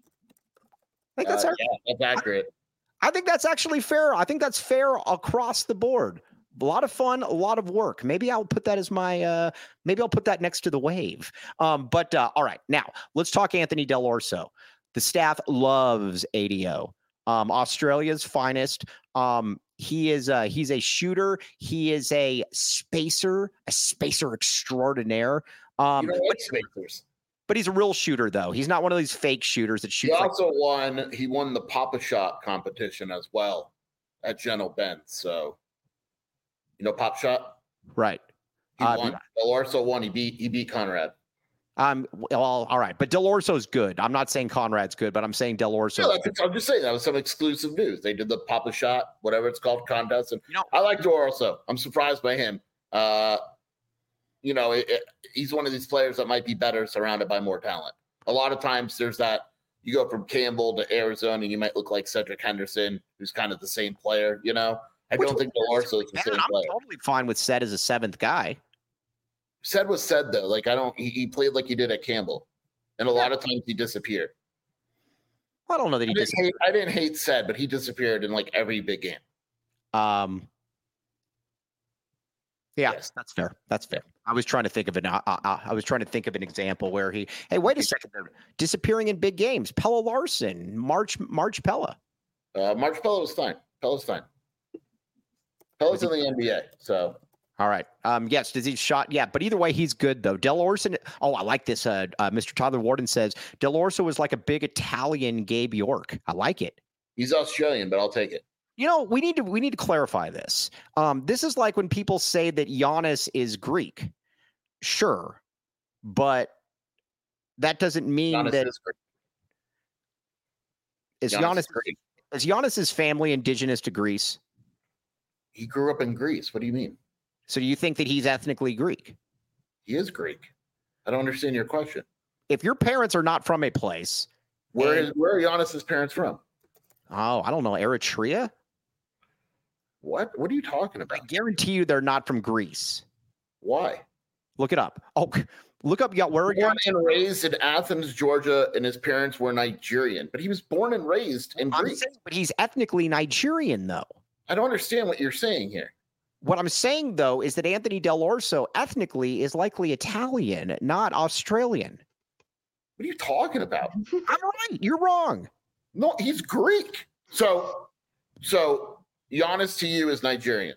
I think that's, Uh, our, yeah, that's accurate. I think that's actually fair. I think that's fair across the board. A lot of fun, a lot of work. Maybe I'll put that as my, uh, maybe I'll put that next to the wave. Um, but uh, all right, now let's talk Anthony Del Orso. The staff loves A D O, um, Australia's finest. Um, he is, uh, he's a shooter. He is a spacer, a spacer extraordinaire. Um, You don't but, like spacers. but he's a real shooter though. He's not one of these fake shooters that He shoots. Like, also won. He won the Papa Shot competition as well at Gentle Bend. So, you know, Pop Shot. right. He Uh, won. Del Orso won. He beat. He beat Conrad. Um, well, all right, but Del Orso's good. I'm not saying Conrad's good, but I'm saying Del Orso. Yeah, that's, I'm just saying that was some exclusive news. They did the Papa Shot, whatever it's called, contest, and You know- I like Del Orso. I'm surprised by him. Uh, you know, it, it, he's one of these players that might be better surrounded by more talent. A lot of times, there's that you go from Campbell to Arizona, and you might look like Cedric Henderson, who's kind of the same player. You know, I Which don't think Del Orso is the Man, same I'm player. totally fine with Sed as a seventh guy. Said was said though. Like I don't. He, he played like he did at Campbell, and a lot of times he disappeared. I don't know that I he didn't, just. hate, I didn't hate said, but he disappeared in like every big game. Um, Yeah, Yes. that's fair. That's fair. I was trying to think of an. Uh, uh, I was trying to think of an example where he. Hey, wait a second. They're disappearing in big games. Pella Larson, March, March Pella. Uh, March Pella was fine. Pella's fine. Pella's in the N B A, so. All right. Um, yes, does he shot? Yeah, but either way, he's good though. Del Orso. Oh, I like this. Uh, uh, Mister Tyler Warden says Del Orso was like a big Italian Gabe York. I like it. He's Australian, but I'll take it. You know, we need to we need to clarify this. Um, this is like when people say that Giannis is Greek. Sure, but that doesn't mean Giannis that is Greek. is Giannis Giannis is Greek. is Giannis's family indigenous to Greece? He grew up in Greece. What do you mean? So do you think that he's ethnically Greek? He is Greek. I don't understand your question. If your parents are not from a place, Where and- is where are Giannis's parents from? oh, I don't know, Eritrea? What? What are you talking I about? guarantee you they're not from Greece. Why? Look it up. Oh, look up. Yeah, where are you? Born and raised in Athens, Georgia, and his parents were Nigerian, but he was born and raised in I'm Greece. saying, but he's ethnically Nigerian, though. I don't understand what you're saying here. What I'm saying, though, is that Anthony Del Orso ethnically is likely Italian, not Australian. What are you talking about? I'm right. You're wrong. No, he's Greek. So, so Giannis to you is Nigerian.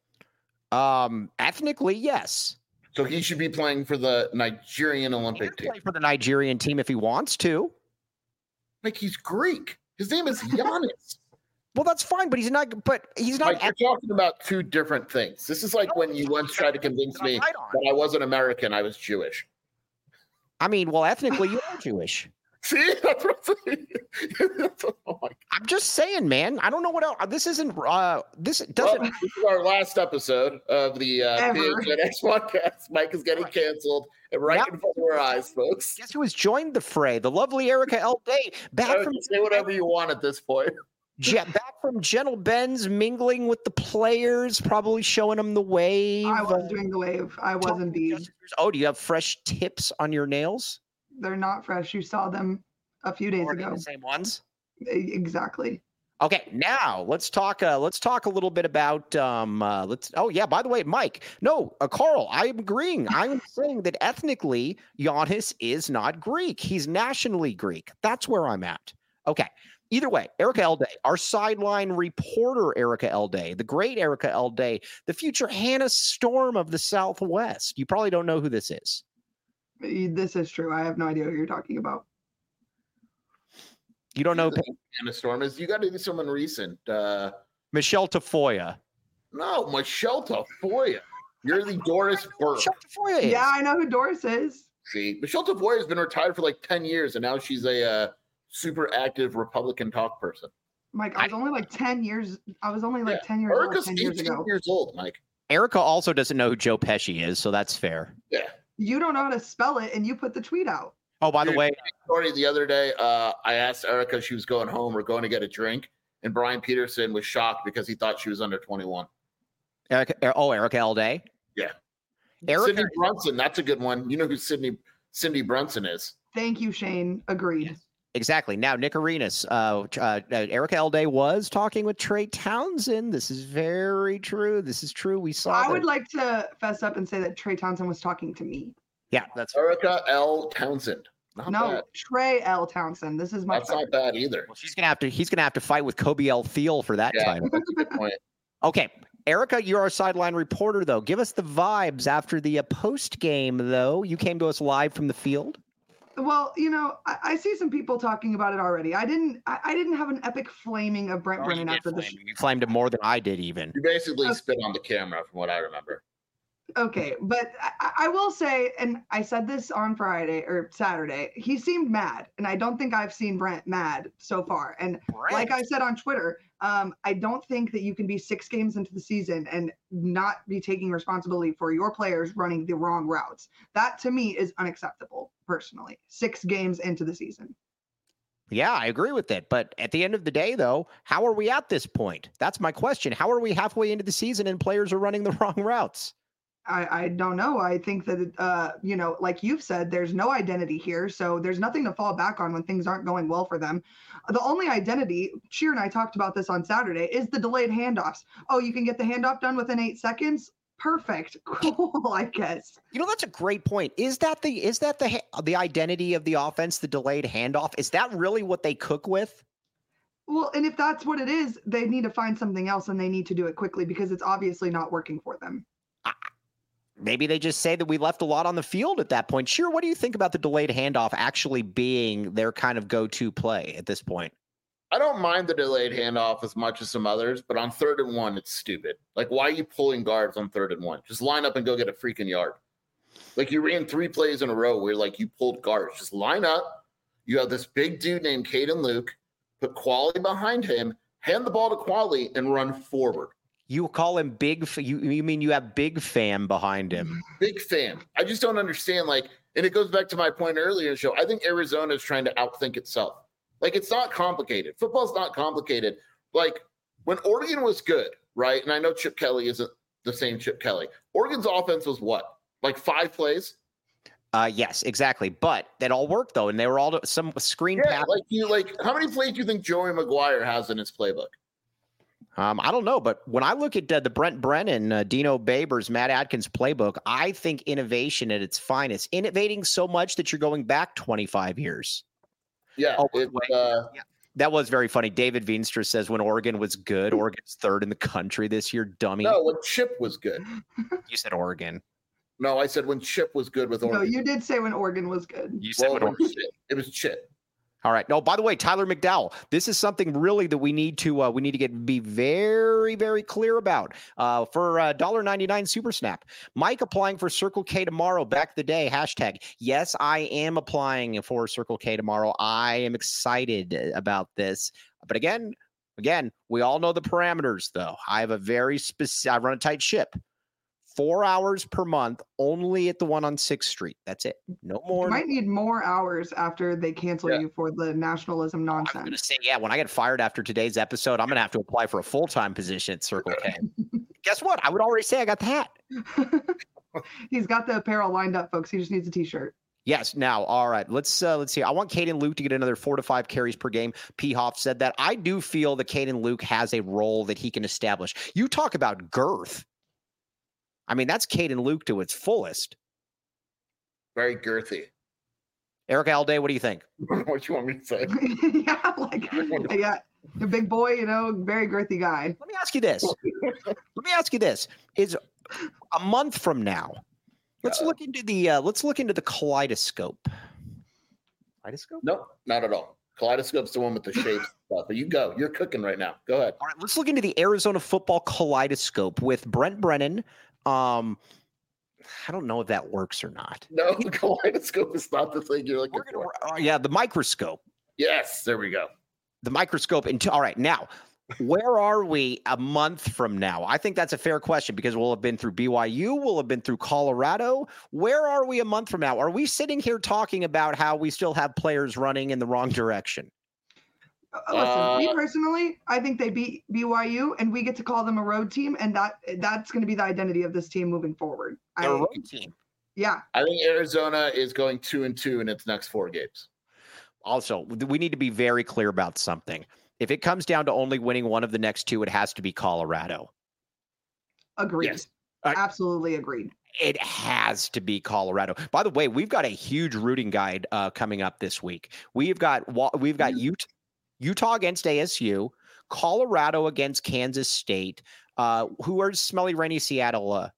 Um, ethnically, yes. So he should be playing for the Nigerian He Olympic can team. play for the Nigerian team if he wants to. Like he's Greek. His name is Giannis. Well, that's fine, but he's not. But he's not. Like you're talking about two different things. This is like when you once tried to convince me Right on. that I wasn't American, I was Jewish. I mean, well, ethnically, you are Jewish. See, that's what I'm saying. Oh my I'm just saying, man. I don't know what else. This isn't. Uh, this doesn't. Well, this is our last episode of the uh, Ever. P H N X podcast. Mike is getting canceled, and right Yep. in front of our eyes, folks. Guess who has joined the fray? The lovely Erica L. Day, back Eric, from say whatever you want at this point. Je- back from Gentle Ben's, mingling with the players, probably showing them the wave. I was uh, doing the wave. I was talking indeed. just- Oh, do you have fresh tips on your nails? They're not fresh. You saw them a few days Or are they ago. the same ones? E- Exactly. Okay, now let's talk. Uh, let's talk a little bit about. Um, uh, let's. Oh yeah, by the way, Mike. No, uh, Carl. I am agreeing. I am saying that ethnically, Giannis is not Greek. He's nationally Greek. That's where I'm at. Okay. Either way, Erica L. Day, our sideline reporter, Erica L. Day, the great Erica L. Day, the future Hannah Storm of the Southwest. You probably don't know who this is. E- This is true. I have no idea who you're talking about. You don't know Anna Storm is. You got to do someone recent. Uh, Michelle Tafoya. no, Michelle Tafoya. You're the Doris Burke. Michelle Tafoya is. Yeah, I know who Doris is. See, Michelle Tafoya has been retired for like ten years, and now she's a uh, super active Republican talk person. Mike, I was only like ten years. I was only like Yeah. ten years old Erica's ten years eighteen ago. years old, Mike. Erica also doesn't know who Joe Pesci is, so that's fair. Yeah. You don't know how to spell it, and you put the tweet out. Oh, by the Dude, way, Story the other day, uh, I asked Erica if she was going home or going to get a drink, and Brian Peterson was shocked because he thought she was under twenty-one. Erica, Er- oh, Erica L. Day. Yeah. Erica, Cindy Brunson, that's a good one. You know who Cindy Cindy Brunson is? Thank you, Shane. Agreed. exactly. Now, Nick Arenas, uh, uh, uh, Erica L. Day was talking with Trey Townsend. This is very true. This is true. We saw. I that. would like to fess up and say that Trey Townsend was talking to me. Yeah, that's. Erica L. Townsend. Not no, bad. Trey L. Townsend. This is my. That's not bad either. Well, she's gonna have to. He's gonna have to fight with Kobe L. Thiel for that Yeah. title. That's a good point. Okay, Erica, you're our sideline reporter, though. Give us the vibes after the uh, post game, though. You came to us live from the field. Well, you know, I, I see some people talking about it already. I didn't. I, I didn't have an epic flaming of Brent Oh, you Brennan did after the. flame him. You flamed him more than I did, even. You basically Uh, spit on the camera, from what I remember. Okay, but I, I will say, and I said this on Friday or Saturday, he seemed mad, and I don't think I've seen Brent mad so far. And like I said on Twitter, um, I don't think that you can be six games into the season and not be taking responsibility for your players running the wrong routes. That to me is unacceptable, personally. Six games into the season. Yeah, I agree with it. But at the end of the day, though, how are we at this point? That's my question. How are we halfway into the season and players are running the wrong routes? I, I don't know. I think that, uh, you know, like you've said, there's no identity here. So there's nothing to fall back on when things aren't going well for them. The only identity, Sheer and I talked about this on Saturday, is the delayed handoffs. Oh, you can get the handoff done within eight seconds? Perfect. Cool, I guess. You know, that's a great point. Is that the is that the the identity of the offense, the delayed handoff? Is that really what they cook with? Well, and if that's what it is, they need to find something else and they need to do it quickly because it's obviously not working for them. Maybe they just say that we left a lot on the field at that point. Sure, what do you think about the delayed handoff actually being their kind of go-to play at this point? I don't mind the delayed handoff as much as some others, but on third and one, it's stupid. Like, why are you pulling guards on third and one? Just line up and go get a freaking yard. Like, you ran three plays in a row where, like, you pulled guards. Just line up. You have this big dude named Caden Luke. Put Quali behind him. Hand the ball to Quali and run forward. You call him big. You, you mean you have Big Fam behind him? Big Fam. I just don't understand. Like, and it goes back to my point earlier in the show. I think Arizona is trying to outthink itself. Like, it's not complicated. Football's not complicated. Like, when Oregon was good, right? And I know Chip Kelly isn't the same Chip Kelly. Oregon's offense was what? Like five plays? Uh, yes, exactly. But that all worked, though. And they were all some screen yeah, pass. Like, you, like, how many plays do you think Joey McGuire has in his playbook? Um, I don't know, but when I look at uh, the Brent Brennan, uh, Dino Babers, Matt Adkins playbook, I think innovation at its finest. Innovating so much that you're going back twenty-five years. Yeah, oh, it, uh, yeah. That was very funny. David Veenstra says when Oregon was good, Oregon's third in the country this year, dummy. No, when Chip was good. You said Oregon. No, I said when Chip was good with Oregon. No, you did say when Oregon was good. You said well, when Oregon. Chip. It was Chip. All right. No, by the way, Tyler McDowell, this is something really that we need to uh, we need to get be very, very clear about. Uh, for uh, one dollar ninety-nine Super Snap. Mike applying for Circle K tomorrow. Back the day. Hashtag. Yes, I am applying for Circle K tomorrow. I am excited about this. But again, again, we all know the parameters, though. I have a very specific. I run a tight ship. Four hours per month, only at the one on sixth Street. That's it. No more. You might need more hours after they cancel yeah. you for the nationalism nonsense. I'm going to say, yeah, when I get fired after today's episode, I'm going to have to apply for a full-time position at Circle K. Guess what? I would already say I got the hat. He's got the apparel lined up, folks. He just needs a T-shirt. Yes. Now, all right. Let's uh, let's see. I want Caden Luke to get another four to five carries per game. P. Hoff said that. I do feel that Caden Luke has a role that he can establish. You talk about girth. I mean, that's Caden Luke to its fullest. Very girthy. Eric Alday, what do you think? What you want me to say? yeah, like, yeah, a big boy, you know, very girthy guy. Let me ask you this. Let me ask you this. Is a month from now, let's uh, look into the uh, let's look into the kaleidoscope. Kaleidoscope? No, not at all. Kaleidoscope's the one with the shapes stuff. But you go. You're cooking right now. Go ahead. All right, let's look into the Arizona football kaleidoscope with Brent Brennan. Um, I don't know if that works or not. No, the kaleidoscope is not the thing you're looking gonna, for. Uh, yeah, the microscope. Yes, there we go. The microscope. Into, all right, now, where are we a month from now? I think that's a fair question because we'll have been through B Y U. We'll have been through Colorado. Where are we a month from now? Are we sitting here talking about how we still have players running in the wrong direction? Listen, uh, me personally, I think they beat B Y U, and we get to call them a road team, and that that's going to be the identity of this team moving forward. A road team. Yeah. I think Arizona is going two and two in its next four games. Also, we need to be very clear about something. If it comes down to only winning one of the next two, it has to be Colorado. Agreed. Yes. Uh, Absolutely agreed. It has to be Colorado. By the way, we've got a huge rooting guide uh, coming up this week. We've got we've got Utah. Utah against A S U, Colorado against Kansas State. Uh, who are Smelly Rainy Seattle? Uh,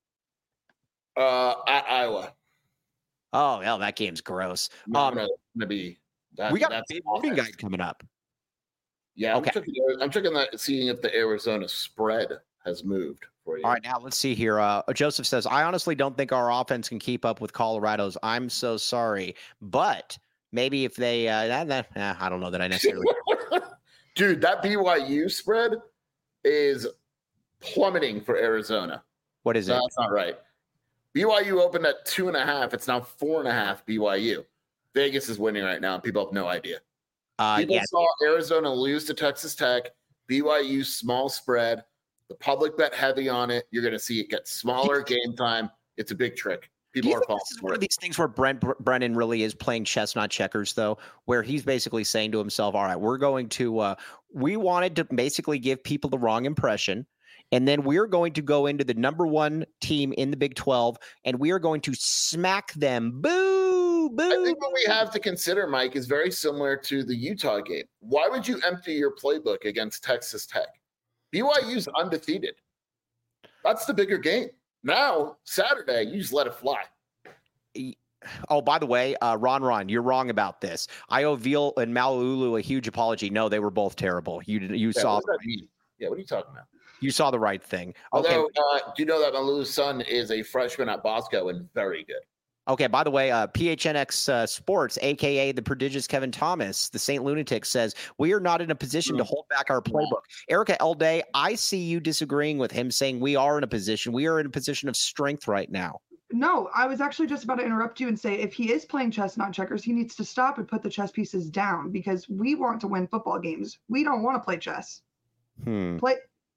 uh, at Iowa. Oh, hell, that game's gross. No, um, no, gonna be. That, we got a big rooting guide coming up. Yeah, I'm okay. checking. I'm checking that, seeing if the Arizona spread has moved for you. All right, now let's see here. Uh, Joseph says, "I honestly don't think our offense can keep up with Colorado's. I'm so sorry, but." Maybe if they, uh, that, that, eh, I don't know that I necessarily. Dude, that B Y U spread is plummeting for Arizona. What is no, it? That's not right. B Y U opened at two and a half. It's now four and a half B Y U. Vegas is winning right now, and people have no idea. Uh, people yeah. saw Arizona lose to Texas Tech. B Y U small spread. The public bet heavy on it. You're going to see it get smaller game time. It's a big trick. People are falling. This is one of these things where Brent Brennan really is playing chess, not checkers, though, where he's basically saying to himself, all right, we're going to, uh, we wanted to basically give people the wrong impression. and then we're going to go into the number one team in the Big twelve, and we are going to smack them. Boo, boo. I think what we have to consider, Mike, is very similar to the Utah game. Why would you empty your playbook against Texas Tech? B Y U's undefeated. That's the bigger game. Now, Saturday, you just let it fly. Oh, by the way, uh, Ron Ron, you're wrong about this. I owe Veal and Malulu a huge apology. No, they were both terrible. You you yeah, saw. What does that mean? Yeah, what are you talking about? You saw the right thing. Although, okay. uh, do you know that Malulu's son is a freshman at Bosco and very good? Okay, by the way, uh, P H N X uh, Sports, a k a the prodigious Kevin Thomas, the Saint Lunatic, says, we are not in a position to hold back our playbook. Erica Elday, I see you disagreeing with him, saying we are in a position. We are in a position of strength right now. No, I was actually just about to interrupt you and say, if he is playing chess, not checkers, he needs to stop and put the chess pieces down, because we want to win football games. We don't want to play chess. Hmm. Play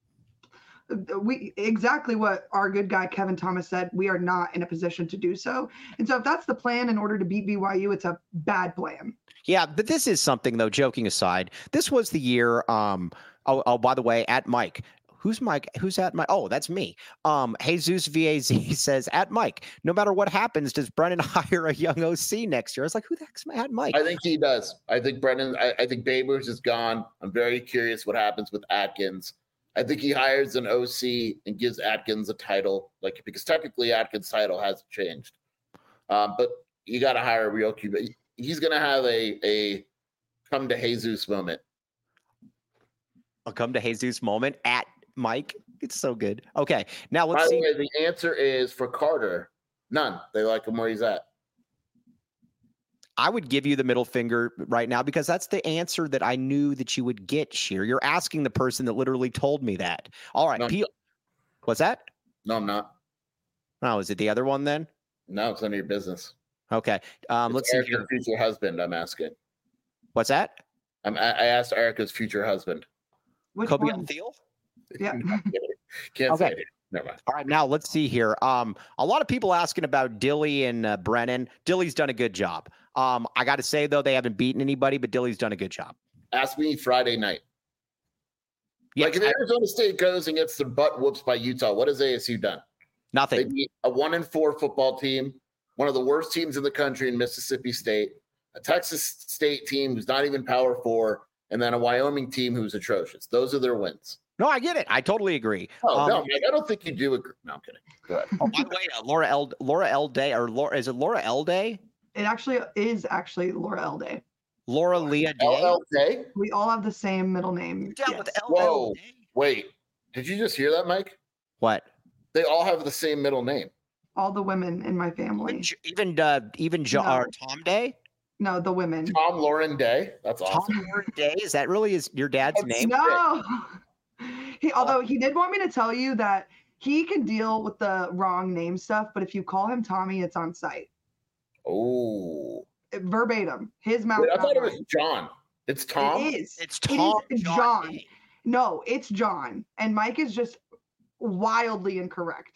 we exactly what our good guy Kevin Thomas said. We are not in a position to do so. And so if that's the plan in order to beat B Y U, it's a bad plan. Yeah, but this is something, though, joking aside. This was the year. Um, oh, oh, by the way, at Mike. Who's Mike? Who's at Mike? Oh, that's me. Um, Jesus V A Z says, at Mike, no matter what happens, does Brennan hire a young O C next year? I was like, who the heck's at Mike? I think he does. I think Brennan, I, I think Babers is gone. I'm very curious what happens with Atkins. I think he hires an O C and gives Atkins a title, like, because technically Atkins' title hasn't changed. Um, but you got to hire a real Q B. He's going to have a a come to Jesus moment. A come to Jesus moment at Mike. It's so good. Okay, now let's By see. the way, the answer is for Carter. None. They like him where he's at. I would give you the middle finger right now because that's the answer that I knew that you would get, Sheer. You're asking the person that literally told me that. All right. No, P- What's that? No, I'm not. Oh, is it the other one then? No, it's none of your business. Okay. Um, let's see. Erica's Here. future husband, I'm asking. What's that? I'm, I I asked Erica's future husband. Which Kobe one? Thiel? Yeah. Can't Okay. say it. Never mind. All right, now let's see here. Um, a lot of people asking about Dilly and uh, Brennan. Dilly's done a good job. Um, I got to say though, they haven't beaten anybody, but Dilly's done a good job. Ask me Friday night. Yes, like if I- Arizona State goes and gets their butt whoops by Utah, what has A S U done? They nothing. beat a one and four football team, one of the worst teams in the country in Mississippi State, a Texas State team who's not even Power Four, and then a Wyoming team who's atrocious. Those are their wins. No, I get it. I totally agree. Oh Um, no, Mike, I don't think you do agree. No, I'm kidding. Go ahead. oh, by the way, uh, Laura L. Laura L. Day or Laura is it Laura L. Day? It actually is actually Laura Elday. Laura Leah Day. L L K? We all have the same middle name. Down Yes. with L. Whoa. L. Day. Wait, did you just hear that, Mike? What? They all have the same middle name. All the women in my Even family. J- even uh, even jo- No. uh, Tom Day. No, the women. Tom Lauren Day. That's awesome. Tom Lauren Day. Is that really his your dad's That's- name? No. He, although he did want me to tell you that he can deal with the wrong name stuff, but if you call him Tommy, it's on site. Oh. Verbatim. His mouth. Wait, I not thought it was mine. John. It's Tom. It is. It's It Tom is John John. Day. No, it's John. And Mike is just wildly incorrect.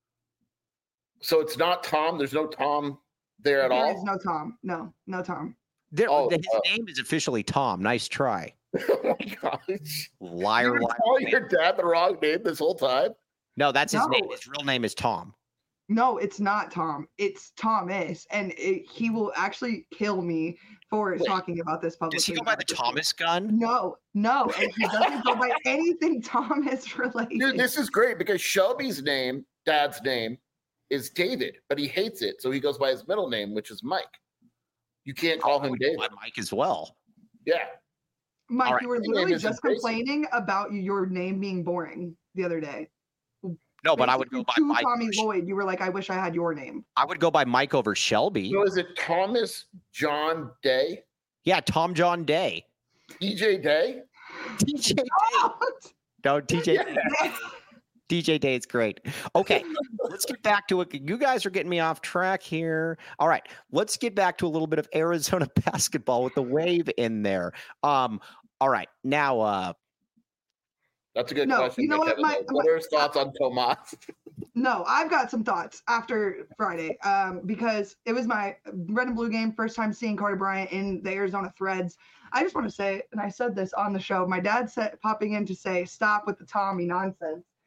So it's not Tom. There's no Tom there at There all. is no Tom. No, no Tom. There- Oh, his uh, name is officially Tom. Nice try. Oh my gosh. Liar, You were liar. calling liar. your dad the wrong name this whole time? No, that's his name. No. His real name is Tom. No, it's not Tom. It's Thomas. And it, he will actually kill me for Wait, talking about this publicly. Does he go by the Thomas gun? No, no. And he doesn't go by anything Thomas related. Dude, this is great because Shelby's name, dad's name, is David, but he hates it. So he goes by his middle name, which is Mike. You can't call him David. By Mike as well. Yeah. Mike, All right. you were Your name literally isn't just Tracy. complaining about your name being boring the other day. No, but I would go by Basically, to Mike. Tommy over Sh- Lloyd. You were like, I wish I had your name. I would go by Mike over Shelby. So is it Thomas John Day? Yeah, Tom John Day. E J Day? D J Day. No, D J Day. D J Day is great. Okay, let's get back to it. You guys are getting me off track here. All right, let's get back to a little bit of Arizona basketball with the Wave in there. Um, all right, now uh, That's a good No, question. you know but what, Kevin, my- what are his thoughts on Tomas? No, I've got some thoughts after Friday um, because it was my red and blue game, first time seeing Carter Bryant in the Arizona Threads. I just want to say, and I said this on the show, my dad said popping in to say, stop with the Tommy nonsense.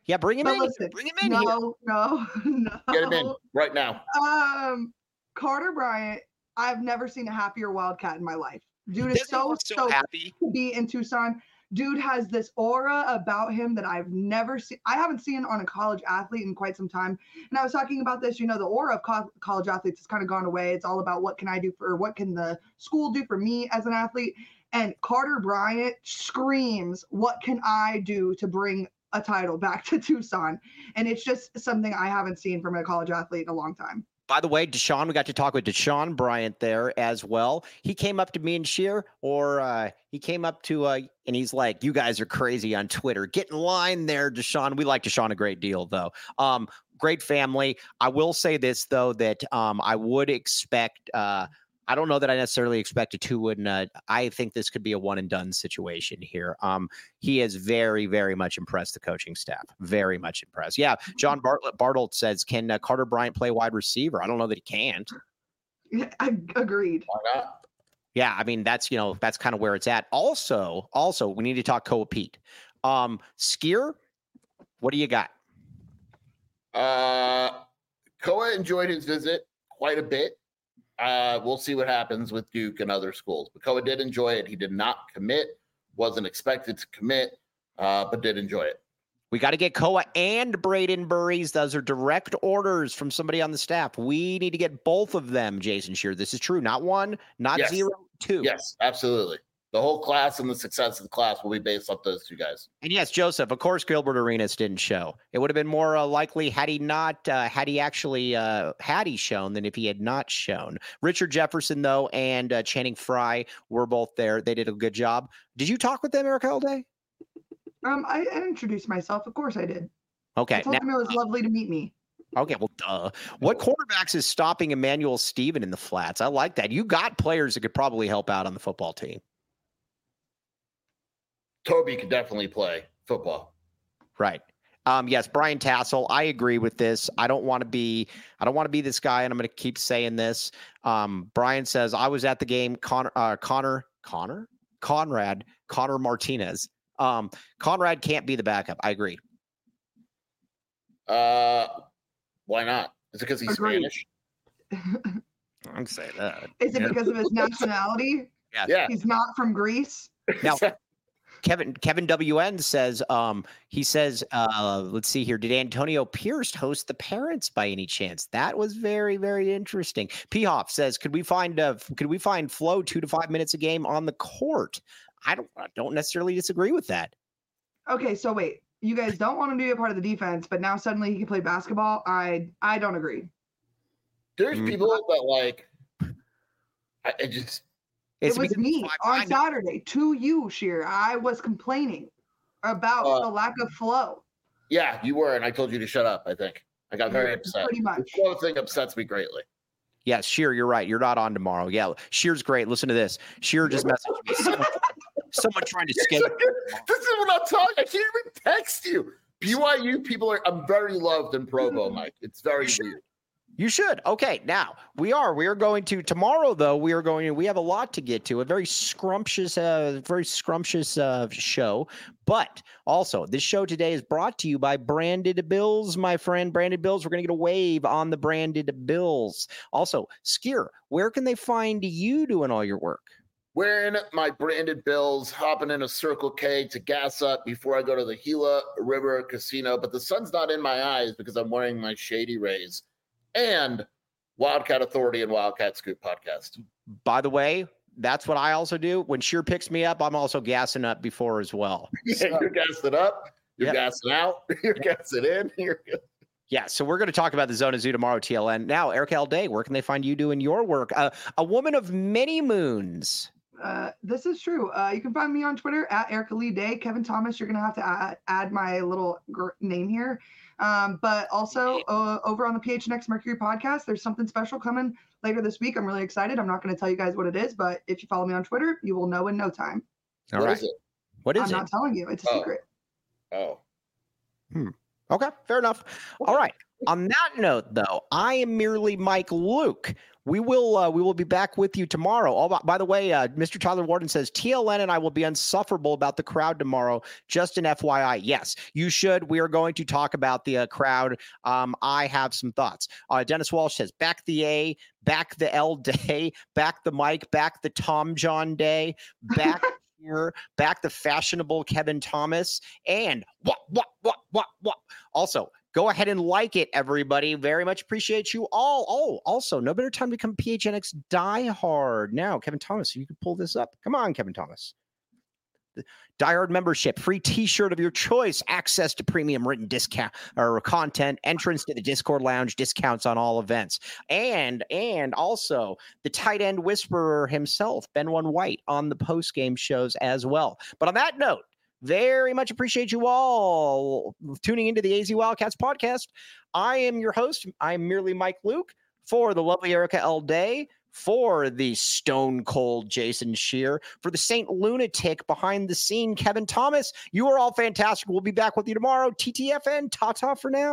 Yeah, bring him But in. listen, Bring him in no, here. no, no. Get him in right now. Um, Carter Bryant, I've never seen a happier Wildcat in my life. Dude is so, so so happy to be in Tucson. Dude has this aura about him that I've never seen. I haven't seen on a college athlete in quite some time. And I was talking about this, you know, the aura of co- college athletes has kind of gone away. It's all about what can I do for, what can the school do for me as an athlete? And Carter Bryant screams, what can I do to bring a title back to Tucson? And it's just something I haven't seen from a college athlete in a long time. By the way, Deshaun, we got to talk with Deshaun Bryant there as well. He came up to me and Sheer, or uh, he came up to, uh, and he's like, you guys are crazy on Twitter. Get in line there, Deshaun. We like Deshaun a great deal, though. Um, great family. I will say this, though, that um, I would expect uh, – I don't know that I necessarily expect a two and uh, I think this could be a one and done situation here. Um, he has very, very much impressed the coaching staff. Very much impressed. Yeah. John Bartlett Bartelt says, can uh, Carter Bryant play wide receiver? I don't know that he can't. I agreed. Why not? Yeah. I mean, that's, you know, that's kind of where it's at. Also, also we need to talk Koa Pete. Um, Skier, what do you got? Uh, Koa enjoyed his visit quite a bit. Uh, we'll see what happens with Duke and other schools. But Koa did enjoy it. He did not commit, wasn't expected to commit, uh, but did enjoy it. We got to get Koa and Braden Burries. Those are direct orders from somebody on the staff. We need to get both of them, Jason Shear. This is true. Not one, not Yes. zero, two. Yes, absolutely. The whole class and the success of the class will be based off those two guys. And yes, Joseph, of course, Gilbert Arenas didn't show. It would have been more uh, likely had he not, uh, had he actually, uh, had he shown than if he had not shown. Richard Jefferson, though, and uh, Channing Frye were both there. They did a good job. Did you talk with them, Eric Holiday? Um, I, I introduced myself. Of course I did. Okay. I told Now, him it was lovely to meet me. okay, well, duh. What quarterbacks is stopping Emmanuel Steven in the flats? I like that. You got players that could probably help out on the football team. Toby could definitely play football. Right. Um, yes, Brian Tassel. I agree with this. I don't want to be, I don't want to be this guy, and I'm going to keep saying this. Um, Brian says, I was at the game. Connor, uh, Connor, Connor, Conrad, Connor Martinez. Um, Conrad can't be the backup. I agree. Uh, why not? Is it because he's Agreed. Spanish? I'm saying that. Is it Yeah. because of his nationality? Yeah. Yeah. He's not from Greece. Now, Kevin Kevin W N says, um, he says, uh, let's see here. Did Antonio Pierce host the parents by any chance? That was very, very interesting. P Hoff says, could we find uh, could we find Flo two to five minutes a game on the court? I don't I don't necessarily disagree with that. Okay, so wait. You guys don't want him to be a part of the defense, but now suddenly he can play basketball. I I don't agree. There's Mm. people that like, I, I just, It's it was because me five on nine. Saturday to you, Sheer. I was complaining about Uh, the lack of flow. yeah, you were, and I told you to shut up, I think. I got very Yeah, upset. pretty much. The flow thing upsets me greatly. Yes, Sheer, you're right. You're not on tomorrow. Yeah, Sheer's great. Listen to this. Sheer just messaged me. Someone, someone trying to schedule. This is what I'm talking. I can't even text you. B Y U people are, I'm very loved in Provo, Mike. It's very weird. You should. Okay, now we are. We are going to tomorrow, though. We are going to. We have a lot to get to. A very scrumptious, uh, very scrumptious uh, show. But also, this show today is brought to you by Branded Bills, my friend. Branded Bills. We're going to get a wave on the Branded Bills. Also, Skier, where can they find you doing all your work? Wearing my branded bills, hopping in a Circle K to gas up before I go to the Gila River Casino. But the sun's not in my eyes because I'm wearing my Shady Rays and Wildcat Authority and Wildcat Scoop podcast. By the way, that's what I also do. When Sheer picks me up, I'm also gassing up before as well. Yeah, you're gassing up, you're Yep. gassing out, you're gassing in. You're Yeah, so we're going to talk about the Zona Zoo tomorrow, T L N. Now, Eric L. Day, where can they find you doing your work? Uh, a woman of many moons. Uh, this is true. Uh, you can find me on Twitter at Erica Lee Day. Kevin Thomas, you're going to have to add, add my little gr- name here. Um, but also uh, over on the P H N X Mercury podcast, there's something special coming later this week. I'm really excited. I'm not going to tell you guys what it is, but if you follow me on Twitter, you will know in no time. All What right. is it? What is I'm it? not telling you. It's a Oh. secret. Oh, Okay, fair enough. All right. On that note, though, I am merely Mike Luke. we will uh, we will be back with you tomorrow. Oh, by, by the way, uh, Mister Tyler Warden says T L N and I will be insufferable about the crowd tomorrow. Just an F Y I. Yes, you should. We are going to talk about the uh, crowd. Um, I have some thoughts. Uh, Dennis Walsh says back the A, back the L day, back the Mike, back the Tom John day, back here, back the fashionable Kevin Thomas, and what what what what what. Also, go ahead and like it, everybody. Very much appreciate you all. Oh, also, no better time to become P H N X diehard. Now, Kevin Thomas, you can pull this up. Come on, Kevin Thomas. The diehard membership, free t-shirt of your choice, access to premium written discount or content, entrance to the Discord lounge, discounts on all events. And, and also the tight end whisperer himself, Ben One White, on the post-game shows as well. But on that note, very much appreciate you all tuning into the A Z Wildcats podcast. I am your host. I'm merely Mike Luke for the lovely Erica L. Day, for the stone cold Jason Shear, for the Saint Lunatic behind the scene, Kevin Thomas. You are all fantastic. We'll be back with you tomorrow. T T F N, ta-ta for now.